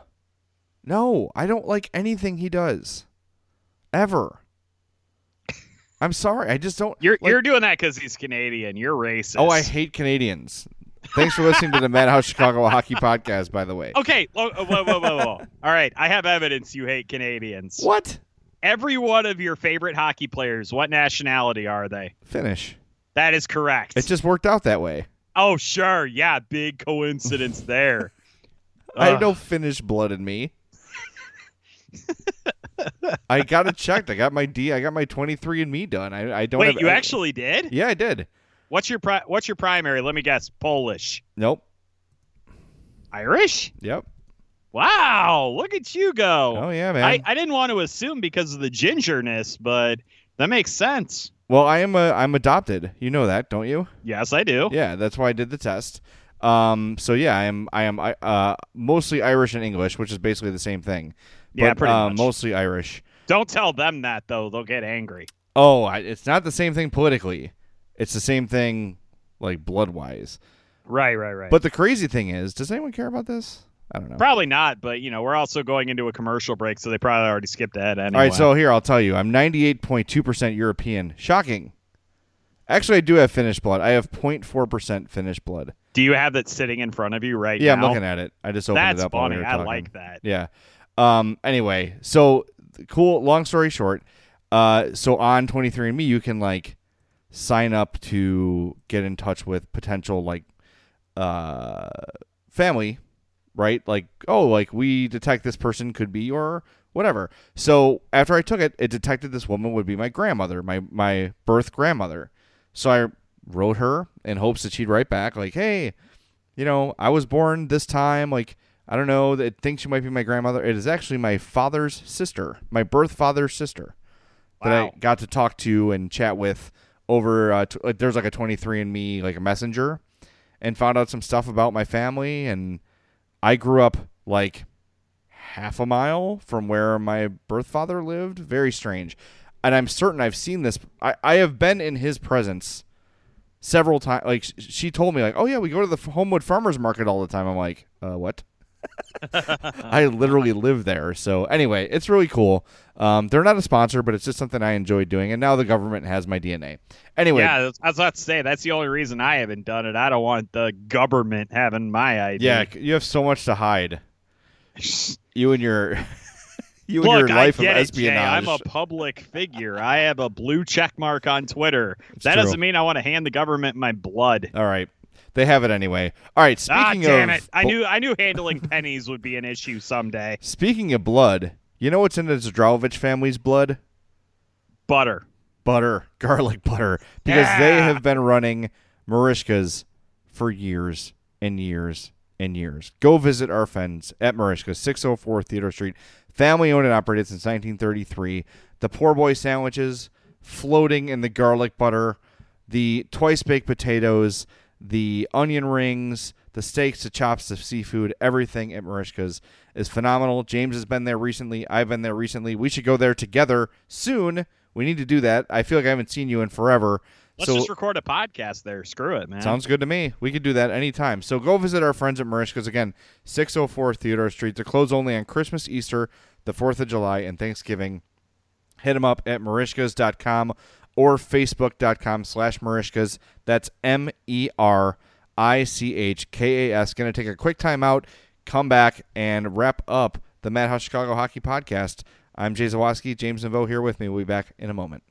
D: No, I don't like anything he does. Ever. I'm sorry. I just don't.
C: You're
D: like-
C: you're doing that because he's Canadian. You're racist.
D: Oh, I hate Canadians. Thanks for listening to the Madhouse Chicago Hockey Podcast, by the way.
C: Okay, whoa, whoa, whoa, whoa, whoa. All right, I have evidence you hate Canadians.
D: What?
C: Every one of your favorite hockey players, what nationality are they?
D: Finish.
C: That is correct.
D: It just worked out that way.
C: Oh, sure. Yeah, big coincidence there.
D: I have
C: Ugh.
D: no Finnish blood in me. I got it checked. I got my D. I got my twenty-three and me done. I, I don't.
C: Wait,
D: have,
C: you
D: I-
C: actually did?
D: Yeah, I did.
C: What's your pri- What's your primary? Let me guess. Polish.
D: Nope.
C: Irish?
D: Yep.
C: Wow, look at you go.
D: Oh yeah, man.
C: I, I didn't want to assume because of the gingerness, but that makes sense.
D: well, I am a. I'm adopted. You know that, don't you?
C: Yes, I do.
D: Yeah, that's why I did the test. Um. So yeah, I am. I am. I uh mostly Irish and English, which is basically the same thing.
C: Yeah,
D: But,
C: pretty
D: uh,
C: much.
D: Mostly Irish.
C: Don't tell them that, though. They'll get angry.
D: Oh, I, it's not the same thing politically. It's the same thing, like blood wise.
C: Right, right, right.
D: But the crazy thing is, does anyone care about this? I don't know.
C: Probably not, but, you know, we're also going into a commercial break, so they probably already skipped ahead anyway.
D: All right, so here I'll tell you, I'm ninety-eight point two percent European. Shocking. Actually, I do have Finnish blood. I have zero point four percent Finnish blood.
C: Do you have that sitting in front of you right
D: Yeah,
C: now?
D: I'm looking at it. I just opened
C: That's
D: it up while
C: funny.
D: we were
C: I
D: talking.
C: like that.
D: Yeah. Um. Anyway, so cool. Long story short, uh, so on twenty-three and me, you can like sign up to get in touch with potential like uh, family, right? Like, oh, like we detect this person could be your whatever. So after I took it, it detected this woman would be my grandmother, my my birth grandmother. So I wrote her in hopes that she'd write back like, hey, you know, I was born this time. Like, I don't know. It thinks she might be my grandmother. It is actually my father's sister, my birth father's sister, wow. that I got to talk to and chat with over. Uh, t- there's like a twenty-three and me, like a messenger, and found out some stuff about my family. And I grew up like half a mile from where my birth father lived. Very strange. And I'm certain I've seen this. I, I have been in his presence several times. Like, she told me, like, oh, yeah, we go to the Homewood Farmers Market all the time. I'm like, uh, what? I literally live there. So, anyway, it's really cool. Um, they're not a sponsor, but it's just something I enjoy doing. And now the government has my D N A. Anyway.
C: Yeah, I was about to say, that's the only reason I haven't done it. I don't want the government having my I D.
D: Yeah, you have so much to hide. You and your... You and
C: Look,
D: your life
C: I get
D: of espionage.
C: It, Jay. I'm a public figure. I have a blue check mark on Twitter.
D: It's
C: that
D: true.
C: doesn't mean I want to hand the government my blood.
D: All right. They have it anyway. All right, speaking
C: ah, damn
D: of
C: it. I knew I knew handling pennies would be an issue someday.
D: Speaking of blood, you know what's in the Zdravovich family's blood?
C: Butter.
D: Butter. Garlic butter. Because
C: yeah.
D: they have been running Marishka's for years and years and years. Go visit our friends at Marishka's, six oh four Theodore Street. Family owned and operated since nineteen thirty-three. The poor boy sandwiches floating in the garlic butter, the twice baked potatoes, the onion rings, the steaks, the chops, the seafood, everything at Marishka's is phenomenal. James has been there recently. I've been there recently. We should go there together soon. We need to do that. I feel like I haven't seen you in forever.
C: Let's
D: so,
C: just record a podcast there. Screw it, man.
D: Sounds good to me. We could do that anytime. So go visit our friends at Marishka's. Again, six oh four Theodore Street. They're closed only on Christmas, Easter, the fourth of July, and Thanksgiving. Hit them up at marishkas dot com or facebook.com slash Marishkas. That's M E R I C H K A S. Going to take a quick time out, come back, and wrap up the Madhouse Chicago Hockey Podcast. I'm Jay Zawaski. James Neveau here with me. We'll be back in a moment.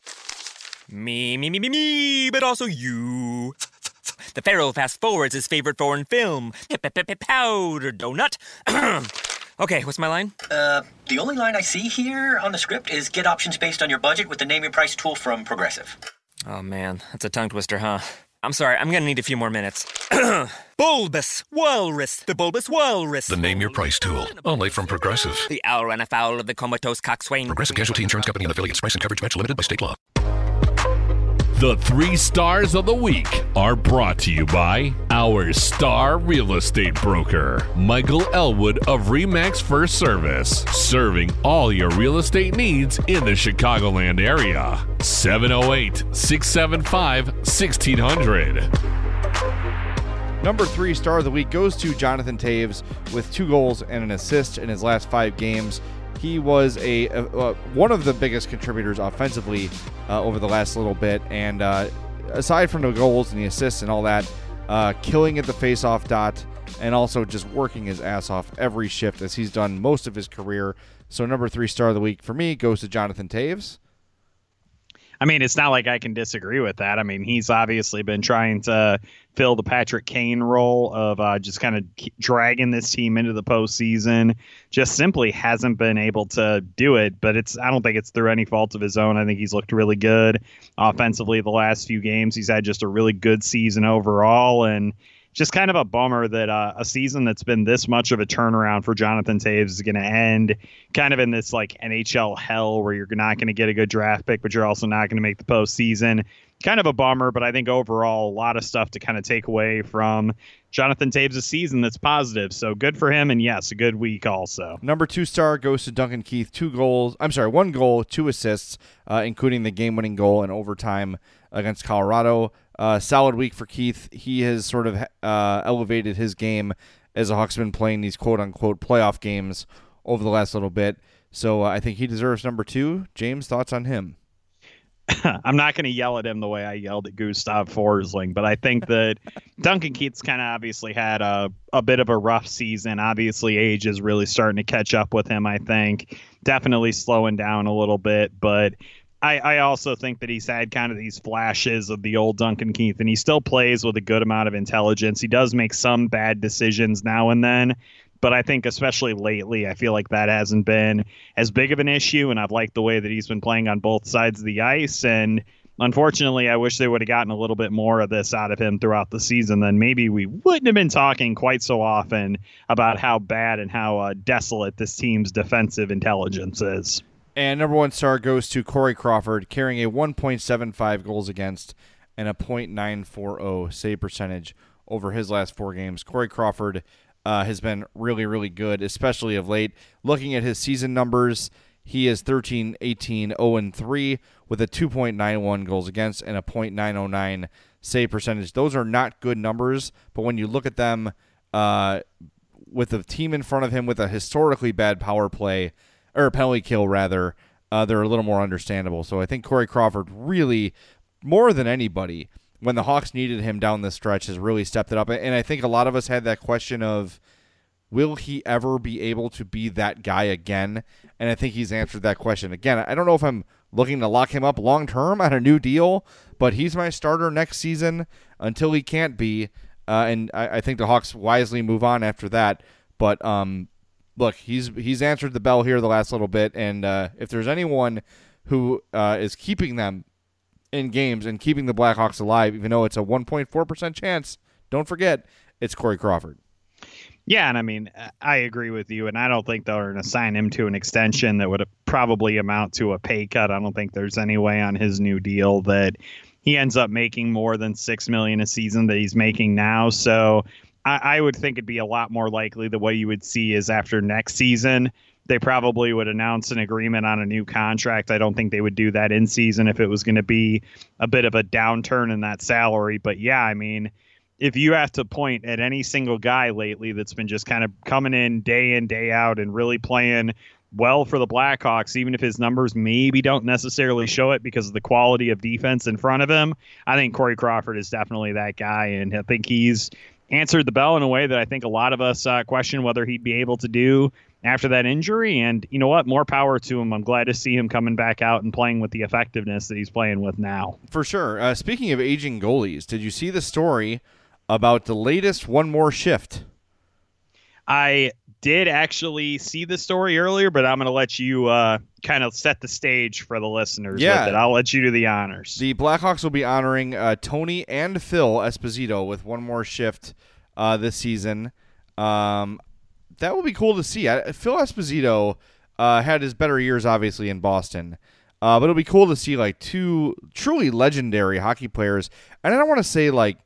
E: Me, me, me, me, me, but also you. The Pharaoh fast forwards his favorite foreign film, Powder Donut. Okay, what's my line?
F: Uh, the only line I see here on the script is get options based on your budget with the Name Your Price tool from Progressive.
E: Oh, man, that's a tongue twister, huh? I'm sorry, I'm gonna need a few more minutes. Bulbous Walrus, the Bulbous Walrus.
G: The Name Your Price tool, only from Progressive.
E: The owl ran afoul of the comatose coxswain.
G: Progressive Casualty Insurance Company and affiliates. Price and coverage match limited by state law.
B: The three stars of the week are brought to you by our star real estate broker, Michael Elwood of Remax First Service, serving all your real estate needs in the Chicagoland area. seven oh eight, six seven five, one six hundred.
D: Number three star of the week goes to Jonathan Toews with two goals and an assist in his last five games. He was a, a uh, one of the biggest contributors offensively uh, over the last little bit, and uh, aside from the goals and the assists and all that, uh, killing at the faceoff dot, and also just working his ass off every shift as he's done most of his career. So number three star of the week for me goes to Jonathan Toews.
C: I mean, it's not like I can disagree with that. I mean, he's obviously been trying to fill the Patrick Kane role of uh, just kind of dragging this team into the postseason. Just simply hasn't been able to do it. But it's I don't think it's through any fault of his own. I think he's looked really good offensively the last few games. He's had just a really good season overall, and just kind of a bummer that uh, a season that's been this much of a turnaround for Jonathan Toews is going to end kind of in this like N H L hell where you're not going to get a good draft pick, but you're also not going to make the postseason. Kind of a bummer, but I think overall a lot of stuff to kind of take away from Jonathan Toews' season that's positive. So good for him, and yes, a good week also.
D: Number two star goes to Duncan Keith. Two goals. I'm sorry, one goal, two assists, uh, including the game-winning goal in overtime against Colorado. Uh, solid week for Keith. He has sort of uh, elevated his game as a Hawks been playing these quote-unquote playoff games over the last little bit. So uh, I think he deserves number two. James, thoughts on him?
C: I'm not going to yell at him the way I yelled at Gustav Forsling, but I think that Duncan Keith's kind of obviously had a, a bit of a rough season. Obviously, age is really starting to catch up with him, I think. Definitely slowing down a little bit, but I, I also think that he's had kind of these flashes of the old Duncan Keith, and he still plays with a good amount of intelligence. He does make some bad decisions now and then, but I think especially lately, I feel like that hasn't been as big of an issue, and I've liked the way that he's been playing on both sides of the ice. And unfortunately, I wish they would have gotten a little bit more of this out of him throughout the season. Then maybe we wouldn't have been talking quite so often about how bad and how uh, desolate this team's defensive intelligence is.
D: And number one star goes to Corey Crawford, carrying a one point seven five goals against and a point nine four oh save percentage over his last four games. Corey Crawford uh, has been really, really good, especially of late. Looking at his season numbers, he is thirteen, eighteen, oh and three with a two point nine one goals against and a point nine oh nine save percentage. Those are not good numbers, but when you look at them uh, with the team in front of him with a historically bad power play, or penalty kill rather, uh, they're a little more understandable. So I think Corey Crawford really, more than anybody, when the Hawks needed him down the stretch, has really stepped it up. And I think a lot of us had that question of, will he ever be able to be that guy again? And I think he's answered that question. Again, I don't know if I'm looking to lock him up long-term on a new deal, but he's my starter next season until he can't be. Uh, and I, I think the Hawks wisely move on after that. But, um, Look, he's he's answered the bell here the last little bit, and uh, if there's anyone who uh, is keeping them in games and keeping the Blackhawks alive, even though it's a one point four percent chance, don't forget, it's Corey Crawford.
C: Yeah, and I mean, I agree with you, and I don't think they're going to sign him to an extension that would probably amount to a pay cut. I don't think there's any way on his new deal that he ends up making more than six million dollars a season that he's making now, so I would think it'd be a lot more likely the way you would see is after next season, they probably would announce an agreement on a new contract. I don't think they would do that in season if it was going to be a bit of a downturn in that salary. But yeah, I mean, if you have to point at any single guy lately that's been just kind of coming in day in, day out and really playing well for the Blackhawks, even if his numbers maybe don't necessarily show it because of the quality of defense in front of him, I think Corey Crawford is definitely that guy. And I think he's answered the bell in a way that I think a lot of us uh, question whether he'd be able to do after that injury. And you know what? More power to him. I'm glad to see him coming back out and playing with the effectiveness that he's playing with now.
D: For sure. Uh, speaking of aging goalies, did you see the story about the latest One More Shift?
C: I did actually see the story earlier, but I'm going to let you uh, kind of set the stage for the listeners
D: yeah.
C: with it. I'll let you do the honors.
D: The Blackhawks will be honoring uh, Tony and Phil Esposito with One More Shift uh, this season. Um, that will be cool to see. I, Phil Esposito uh, had his better years, obviously, in Boston. Uh, but it'll be cool to see like two truly legendary hockey players. And I don't want to say like,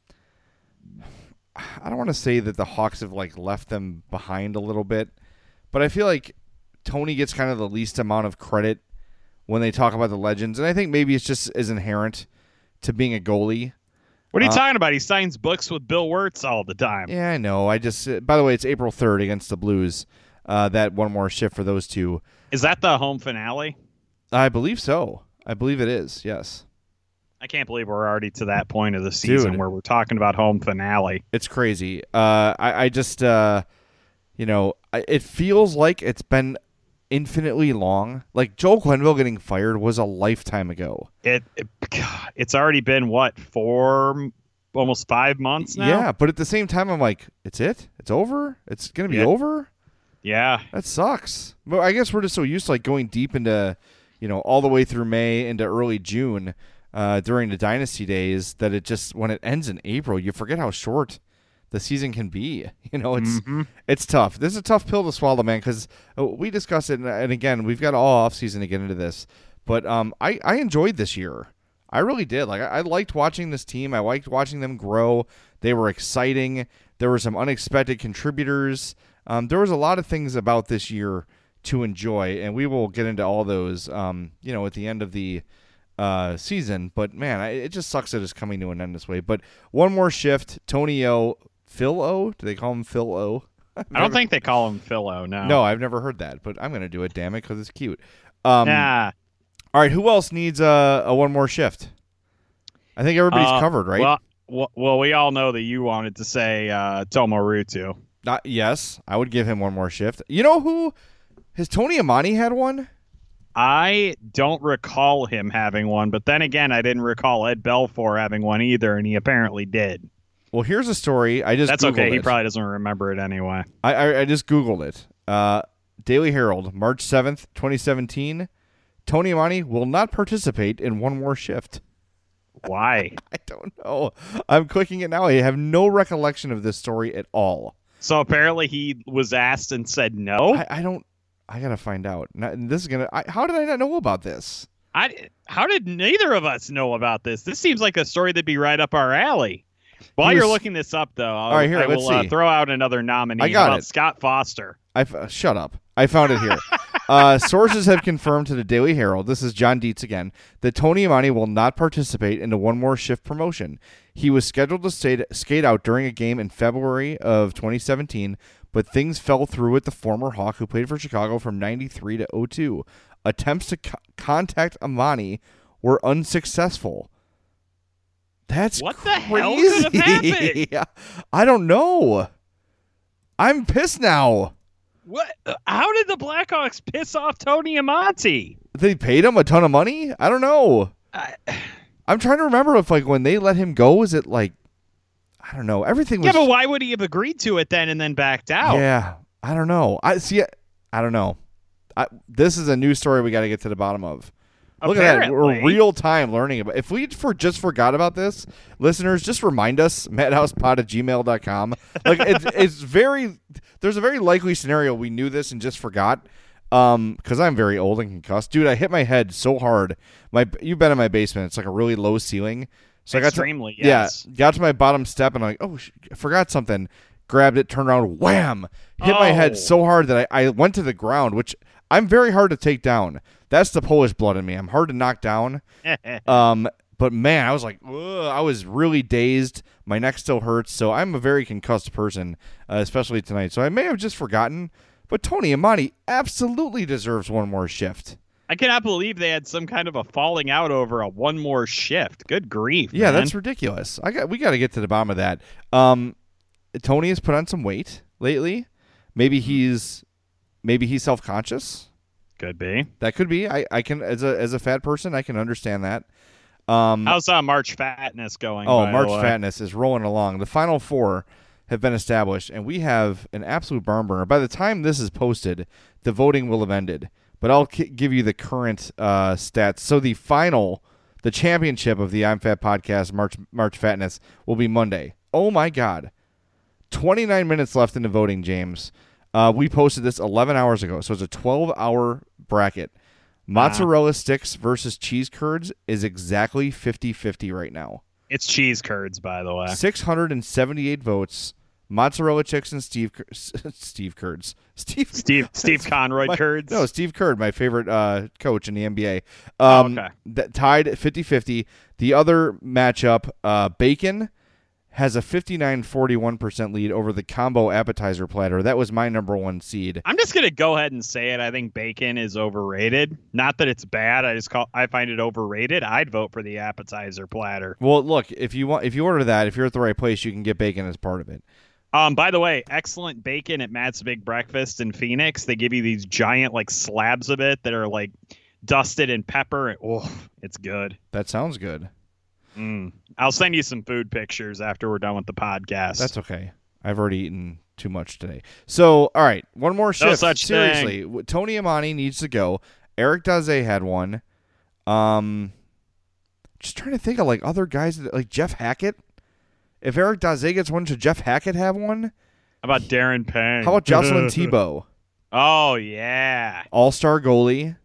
D: I don't want to say that the Hawks have like left them behind a little bit, but I feel like Tony gets kind of the least amount of credit when they talk about the legends, and I think maybe it's just as inherent to being a goalie.
C: What are you
D: uh,
C: talking about? He signs books with Bill Wirtz all the time.
D: Yeah, I know. I just uh, by the way, it's April third against the Blues. Uh, that One More Shift for those two.
C: Is that the home finale?
D: I believe so. I believe it is. Yes.
C: I can't believe we're already to that point of the season
D: Dude.
C: where we're talking about home finale.
D: It's crazy. Uh, I, I just, uh, you know, I, it feels like it's been infinitely long. Like Joel Quenneville getting fired was a lifetime ago.
C: It, it God, it's already been what four, almost five months now.
D: Yeah, but at the same time, I'm like, it's it. It's over. It's gonna be
C: Yeah.
D: over.
C: Yeah,
D: That sucks. But I guess we're just so used to like going deep into, you know, all the way through May into early June. Uh, during the dynasty days, that it just when it ends in April, you forget how short the season can be. You know, it's
C: Mm-hmm.
D: it's tough. This is a tough pill to swallow, man. Because we discussed it, and, and again, we've got all off season to get into this. But um, I I enjoyed this year. I really did. Like I, I liked watching this team. I liked watching them grow. They were exciting. There were some unexpected contributors. Um, there was a lot of things about this year to enjoy, and we will get into all those. Um, you know, at the end of the uh season, but man, I, it just sucks that it's coming to an end this way. But One More Shift, Tony O, Phil O, do they call him Phil O?
C: I don't think they call him Philo. No,
D: No, I've never heard that, but I'm gonna do it. Damn it, because it's cute. Um,
C: Nah.
D: All right, who else needs a, a One More Shift? I think everybody's
C: Uh,
D: covered, right?
C: Well, well, well, we all know that you wanted to say uh, Tomo Rutu.
D: Not, yes, I would give him One More Shift. You know who? Has Tony Amani had one?
C: I don't recall him having one, but then again, I didn't recall Ed Belfour having one either, and he apparently did.
D: Well, here's a story. I just
C: That's
D: Googled
C: okay. He
D: it.
C: probably doesn't remember it anyway.
D: I, I I just Googled it. Uh, Daily Herald, March seventh, twenty seventeen. Tony Amani will not participate in one more shift.
C: Why?
D: I don't know. I'm clicking it now. I have no recollection of this story at all.
C: So apparently he was asked and said no?
D: I, I don't. I gotta find out. Not, this is gonna. I, how did I not know about this?
C: I, how did neither of us know about this? This seems like a story that'd be right up our alley. While
D: He
C: you're
D: was-
C: looking this up, though, I'll,
D: All right, here,
C: I
D: let's
C: will uh,
D: see.
C: throw out another nominee.
D: I got
C: How about
D: it.
C: Scott Foster.
D: I uh, shut up. I found it here. uh, sources have confirmed to the Daily Herald, this is John Dietz again, that Tony Amani will not participate in the one more shift promotion. He was scheduled to stay, skate out during a game in February of twenty seventeen, but things fell through with the former Hawk who played for Chicago from ninety-three to oh two. Attempts to co- contact Amani were unsuccessful. That's
C: What the
D: crazy.
C: hell could have happened?
D: I don't know. I'm pissed now.
C: What? How did the Blackhawks piss off Tony Amonte?
D: They paid him a ton of money? I don't know.
C: I,
D: I'm trying to remember if, like, when they let him go, is it like, I don't know. Everything was.
C: yeah, but why would he have agreed to it then and then backed out?
D: Yeah, I don't know. I see. I don't know. I, this is a new story we got to get to the bottom of. Look at that. We're
C: Apparently.
D: real time learning about. If we for just forgot about this, listeners, just remind us, madhousepod at gmail dot com. Like, it's, it's very. There's a very likely scenario we knew this and just forgot. Um, because I'm very old and concussed, dude. I hit my head so hard. My you've been in my basement. It's like a really low ceiling. So
C: Extremely,
D: I got to,
C: yes.
D: yeah, got to my bottom step and I'm like, oh, sh- I forgot something. Grabbed it, turned around, wham! Hit my head
C: Oh.
D: so hard that I, I went to the ground, which I'm very hard to take down. That's the Polish blood in me. I'm hard to knock down. Um, but man, I was like, ugh, I was really dazed. My neck still hurts, so I'm a very concussed person, uh, especially tonight. So I may have just forgotten. But Tony Amani absolutely deserves one more shift.
C: I cannot believe they had some kind of a falling out over a one more shift. Good grief.
D: Yeah,
C: man.
D: that's ridiculous. I got we got to get to the bottom of that. Um, Tony has put on some weight lately. Maybe he's maybe he's self conscious.
C: Could be.
D: That could be. I, I can as a as a fat person, I can understand that. Um,
C: How's uh, March Fatness going?
D: oh,
C: by
D: March
C: the way?
D: Fatness is rolling along. The final four have been established, and we have an absolute barn burner. By the time this is posted, the voting will have ended. But I'll k- give you the current uh, stats. So the final, the championship of the I'm Fat podcast, March March Fatness, will be Monday. Oh my God, twenty-nine minutes left in the voting, James. Uh, we posted this eleven hours ago, so it's a twelve-hour bracket. Mozzarella sticks versus cheese curds is exactly fifty-fifty right now.
C: It's cheese curds, by the way.
D: six hundred seventy-eight votes. Mozzarella chicks and Steve Cur- Steve Curds. Steve
C: Steve Steve Conroy
D: my-
C: curds.
D: No, Steve Curd, my favorite uh, coach in the N B A. Um,
C: Oh, okay.
D: that tied at fifty-fifty. The other matchup, uh, Bacon has a fifty-nine forty-one percent lead over the combo appetizer platter. That was my number one seed.
C: I'm just gonna go ahead and say it. I think bacon is overrated. Not that it's bad. I just call I find it overrated. I'd vote for the appetizer platter.
D: Well, look, if you want, if you order that, if you're at the right place, you can get bacon as part of it.
C: Um, by the way, excellent bacon at Matt's Big Breakfast in Phoenix. They give you these giant like slabs of it that are like dusted in pepper. And, oh, it's good.
D: That sounds good.
C: Mm. I'll send you some food pictures after we're done with the podcast.
D: That's okay. I've already eaten too much today. So, all right, one more shift.
C: such
D: Seriously, w- Tony Amani needs to go. Eric Daze had one. Um, just trying to think of like other guys that, like Jeff Hackett. If Eric Daze gets one, should Jeff Hackett have one?
C: How about Darren Pang?
D: How about Jocelyn Tebow?
C: Oh yeah.
D: All-star goalie.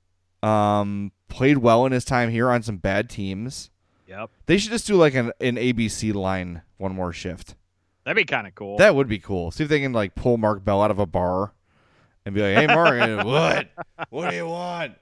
D: Um, played well in his time here on some bad teams.
C: Yep.
D: They should just do like an, an A B C line one more shift.
C: That'd be kind of cool.
D: That would be cool. See if they can like pull Mark Bell out of a bar and be like, "Hey, Mark, what? What do you want?"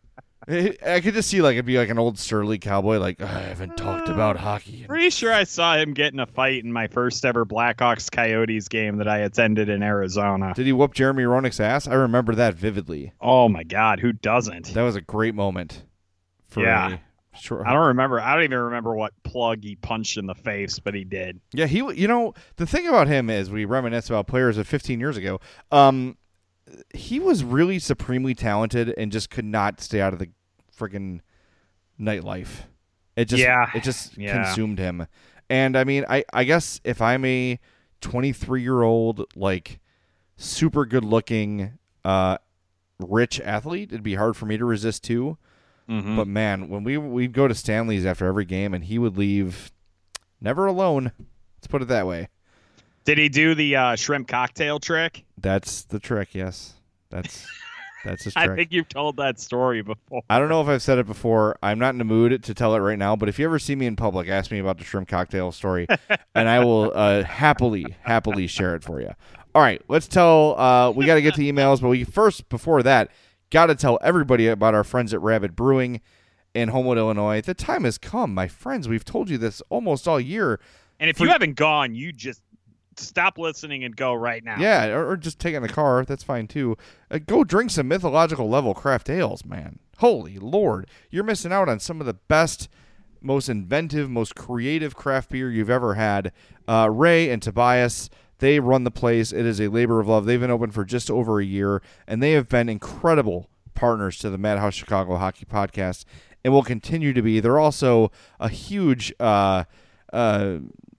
D: I could just see like it'd be like an old surly cowboy, like I haven't talked about hockey.
C: Pretty sure I saw him get in a fight in my first ever Blackhawks Coyotes game that I attended in Arizona.
D: Did he whoop Jeremy Roenick's ass? I remember that vividly.
C: Oh my God, who doesn't?
D: That was a great moment. For
C: Yeah.
D: a short-
C: I don't remember. I don't even remember what plug he punched in the face, but he did.
D: Yeah, he. You know, the thing about him is we reminisce about players of fifteen years ago. Um, he was really supremely talented and just could not stay out of the friggin' nightlife. It just
C: yeah.
D: it just
C: yeah.
D: consumed him. And I mean, I, I guess if I'm a twenty-three year old like super good looking uh rich athlete, it'd be hard for me to resist too.
C: Mm-hmm.
D: But man, when we we'd go to Stanley's after every game and he would leave never alone. Let's put it that way.
C: Did he do the uh, shrimp cocktail trick?
D: That's the trick, yes. That's that's his trick.
C: I think you've told that story before.
D: I don't know if I've said it before. I'm not in the mood to tell it right now, but if you ever see me in public, ask me about the shrimp cocktail story, and I will uh, happily, happily share it for you. All right, let's tell, uh, we got to get to emails, but we first, before that, got to tell everybody about our friends at Rabid Brewing in Homewood, Illinois. The time has come, my friends. We've told you this almost all year.
C: And if
D: For,
C: you haven't gone, you just stop listening and go right now.
D: Yeah, or, or just take it in the car. That's fine, too. Uh, go drink some mythological level craft ales, man. Holy Lord. You're missing out on some of the best, most inventive, most creative craft beer you've ever had. Uh, Ray and Tobias, they run the place. It is a labor of love. They've been open for just over a year, and they have been incredible partners to the Madhouse Chicago Hockey Podcast and will continue to be. They're also a huge uh, uh,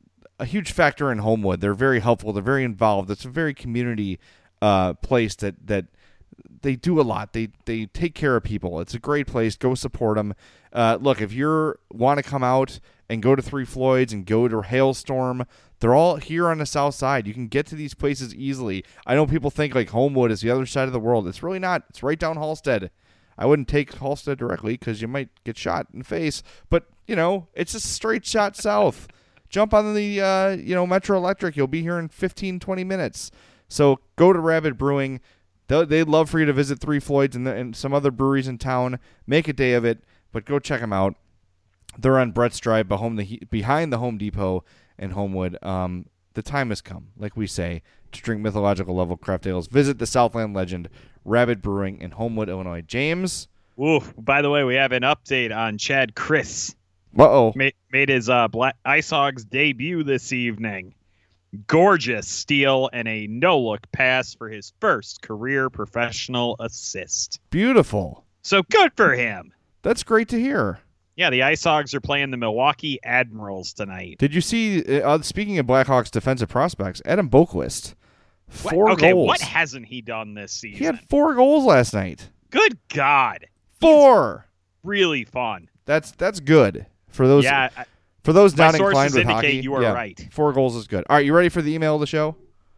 D: a huge factor in Homewood. They're very helpful. They're very involved. It's a very community uh, place that that they do a lot. They they take care of people. It's a great place. Go support them. Uh, look, if you want to come out and go to Three Floyds and go to Hailstorm, they're all here on the south side. You can get to these places easily. I know people think like Homewood is the other side of the world. It's really not. It's right down Halstead. I wouldn't take Halstead directly because you might get shot in the face. But, you know, it's a straight shot south. Jump on the, uh, you know, Metro Electric. You'll be here in fifteen, twenty minutes. So go to Rabid Brewing. They'll, they'd love for you to visit Three Floyds and, the, and some other breweries in town. Make a day of it, but go check them out. They're on Brett's Drive behind the, behind the Home Depot in Homewood. Um, the time has come, like we say, to drink mythological level craft ales. Visit the Southland legend, Rabid Brewing in Homewood, Illinois. James?
C: Ooh, by the way, we have an update on Chad Chris.
D: Uh-oh.
C: Made, made his uh, Black Ice Hogs debut this evening. Gorgeous steal and a no-look pass for his first career professional assist.
D: Beautiful.
C: So good for him.
D: That's great to hear.
C: Yeah, the Ice Hogs are playing the Milwaukee Admirals tonight.
D: Did you see, uh, speaking of Blackhawks defensive prospects, Adam Boquist, four
C: what? Okay,
D: goals.
C: what hasn't he done this season?
D: He had four goals last night.
C: Good God.
D: Four.
C: He's really fun.
D: That's that's good. For those
C: yeah, I,
D: for those not
C: my
D: inclined
C: sources
D: with
C: indicate
D: hockey,
C: you are
D: yeah,
C: right.
D: Four goals is good. All right, you ready for the email of the show?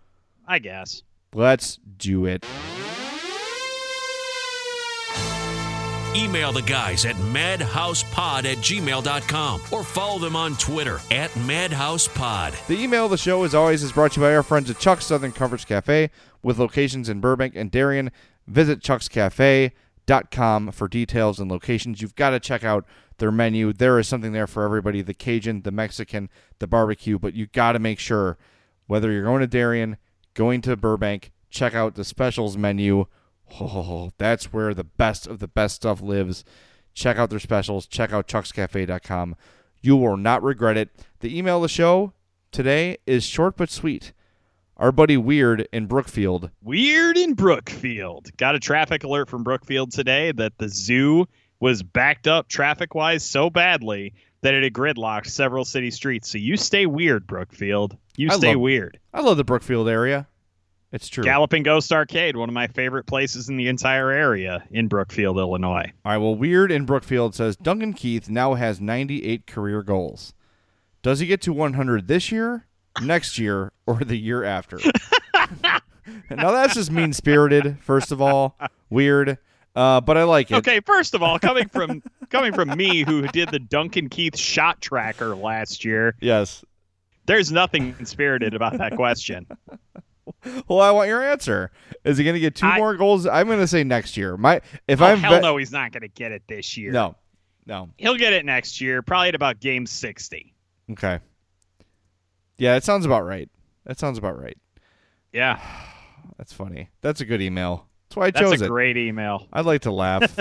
C: I guess.
D: Let's do it.
B: Email the guys at madhousepod at gmail dot com or follow them on Twitter at madhousepod.
D: The email of the show, as always, is brought to you by our friends at Chuck's Southern Comforts Cafe with locations in Burbank and Darien. Visit chucks cafe dot com for details and locations. You've got to check out their menu. There is something there for everybody, the Cajun, the Mexican, the barbecue, but you got to make sure, whether you're going to Darien, going to Burbank, check out the specials menu. Oh, that's where the best of the best stuff lives. Check out their specials. Check out chucks cafe dot com. You will not regret it. The email of the show today is short but sweet. Our buddy Weird in Brookfield.
C: Weird in Brookfield. Got a traffic alert from Brookfield today that the zoo was backed up traffic-wise so badly that it had gridlocked several city streets. So you stay weird, Brookfield. You
D: I
C: stay
D: love,
C: weird.
D: I love the Brookfield area. It's true.
C: Galloping Ghost Arcade, one of my favorite places in the entire area in Brookfield, Illinois.
D: All right, well, Weird in Brookfield says, Duncan Keith now has ninety-eight career goals. Does he get to one hundred this year, next year, or the year after? Now, that's just mean-spirited, first of all. Weird. Uh, but I like it.
C: Okay, first of all, coming from coming from me, who did the Duncan Keith shot tracker last year,
D: yes,
C: there's nothing spirited about that question.
D: Well, I want your answer. Is he going to get two
C: I,
D: more goals? I'm going to say next year. My if
C: oh,
D: I'm
C: hell
D: ve-
C: no, he's not going to get it this year.
D: No, no.
C: He'll get it next year, probably at about game sixty.
D: Okay. Yeah, that sounds about right. That sounds about right.
C: Yeah,
D: that's funny. That's a good email. That's why I
C: That's
D: chose
C: a
D: it.
C: great email.
D: I'd like to laugh.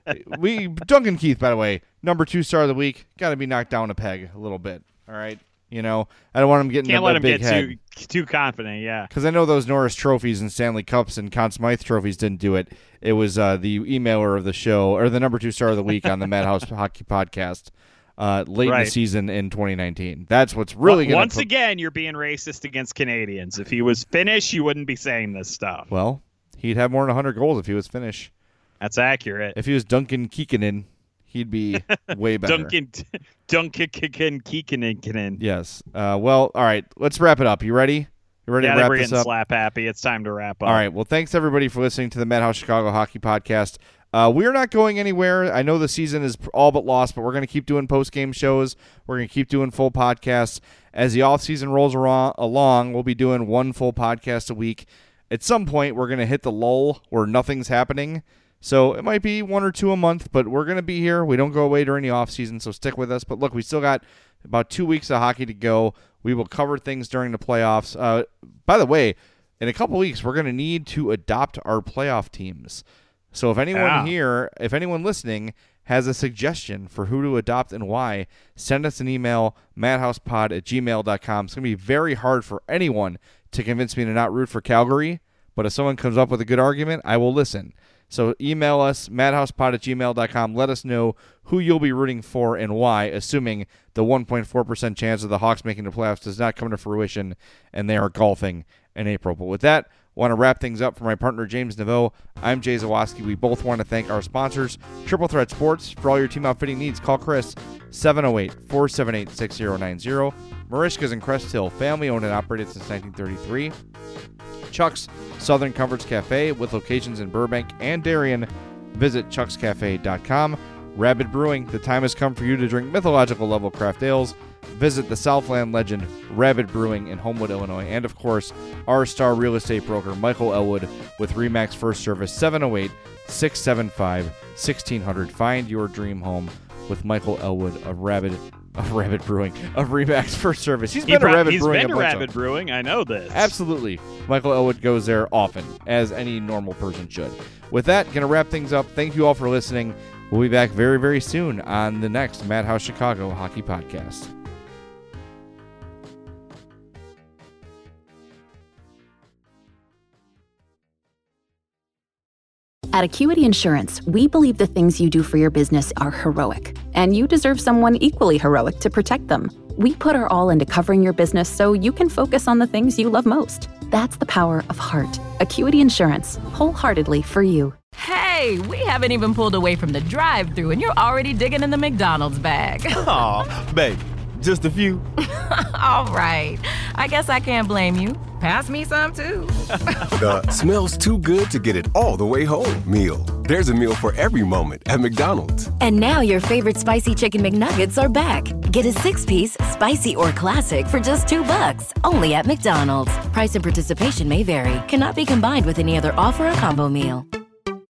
D: we Duncan Keith, by the way, number two star of the week. Got to be knocked down a peg a little bit. All right, You know, I don't want him getting
C: Can't
D: a,
C: let
D: a
C: him
D: big
C: get
D: head.
C: too too confident. Yeah,
D: because I know those Norris trophies and Stanley Cups and Conn Smythe trophies didn't do it. It was uh, the emailer of the show, or the number two star of the week on the Madhouse Hockey Podcast uh, late
C: Right.
D: in the season in twenty nineteen. That's what's really going to
C: Once again, you're being racist against Canadians. If he was Finnish, you wouldn't be saying this stuff.
D: Well, he'd have more than one hundred goals if he was Finnish.
C: That's accurate.
D: If he was Duncan Kikkonen, he'd be way better.
C: Duncan Duncan Kikkonen.
D: Yes. Uh, well, all right. Let's wrap it up. You ready? You ready
C: Yeah,
D: to wrap
C: we're
D: this
C: getting
D: up?
C: slap happy. It's time to wrap up.
D: All right. Well, thanks everybody for listening to the Madhouse Chicago Hockey Podcast. Uh, we're not going anywhere. I know the season is all but lost, but we're going to keep doing post-game shows. We're going to keep doing full podcasts. As the off-season rolls around, along, we'll be doing one full podcast a week. At some point, we're going to hit the lull where nothing's happening. So it might be one or two a month, but we're going to be here. We don't go away during the offseason, so stick with us. But look, we still got about two weeks of hockey to go. We will cover things during the playoffs. Uh, by the way, in a couple weeks, we're going to need to adopt our playoff teams. So if anyone
C: Yeah.
D: here, if anyone listening has a suggestion for who to adopt and why, send us an email, madhousepod at gmail dot com. It's going to be very hard for anyone to convince me to not root for Calgary, but if someone comes up with a good argument, I will listen. So email us, madhousepod at gmail dot com. Let us know who you'll be rooting for and why, assuming the one point four percent chance of the Hawks making the playoffs does not come to fruition and they are golfing in April. But with that, I want to wrap things up for my partner, James Naveau. I'm Jay Zawoski. We both want to thank our sponsors, Triple Threat Sports. For all your team outfitting needs, call Chris, seven oh eight, four seven eight, six oh nine oh. Marishka's in Crest Hill, family owned and operated since nineteen thirty-three. Chuck's Southern Comforts Cafe with locations in Burbank and Darien. Visit chucks cafe dot com. Rabid Brewing, the time has come for you to drink mythological level craft ales. Visit the Southland legend Rabid Brewing in Homewood, Illinois. And of course, our star real estate broker Michael Elwood with Remax First Service, seven oh eight, six seven five, one six zero zero. Find your dream home with Michael Elwood of Rabid of Rabid Brewing of Remax First Service. He's
C: He
D: been
C: pro-
D: to Rabid
C: he's
D: Brewing
C: been
D: a
C: to
D: bunch
C: Rabid
D: of-
C: Brewing. I know this.
D: Absolutely. Michael Elwood goes there often, as any normal person should. With that, going to wrap things up. Thank you all for listening. We'll be back very, very soon on the next Madhouse Chicago Hockey Podcast.
H: At Acuity Insurance, we believe the things you do for your business are heroic, and you deserve someone equally heroic to protect them. We put our all into covering your business so you can focus on the things you love most. That's the power of heart. Acuity Insurance, wholeheartedly for you.
I: Hey, we haven't even pulled away from the drive-thru and you're already digging in the McDonald's bag.
J: Aw, babe, just a few.
I: All right, I guess I can't blame you. Pass me some too.
J: The smells too good to get it all the way home meal. There's a meal for every moment at McDonald's.
K: And now your favorite spicy chicken McNuggets are back. Get a six-piece, spicy or classic for just two bucks, only at McDonald's. Price and participation may vary. Cannot be combined with any other offer or combo meal.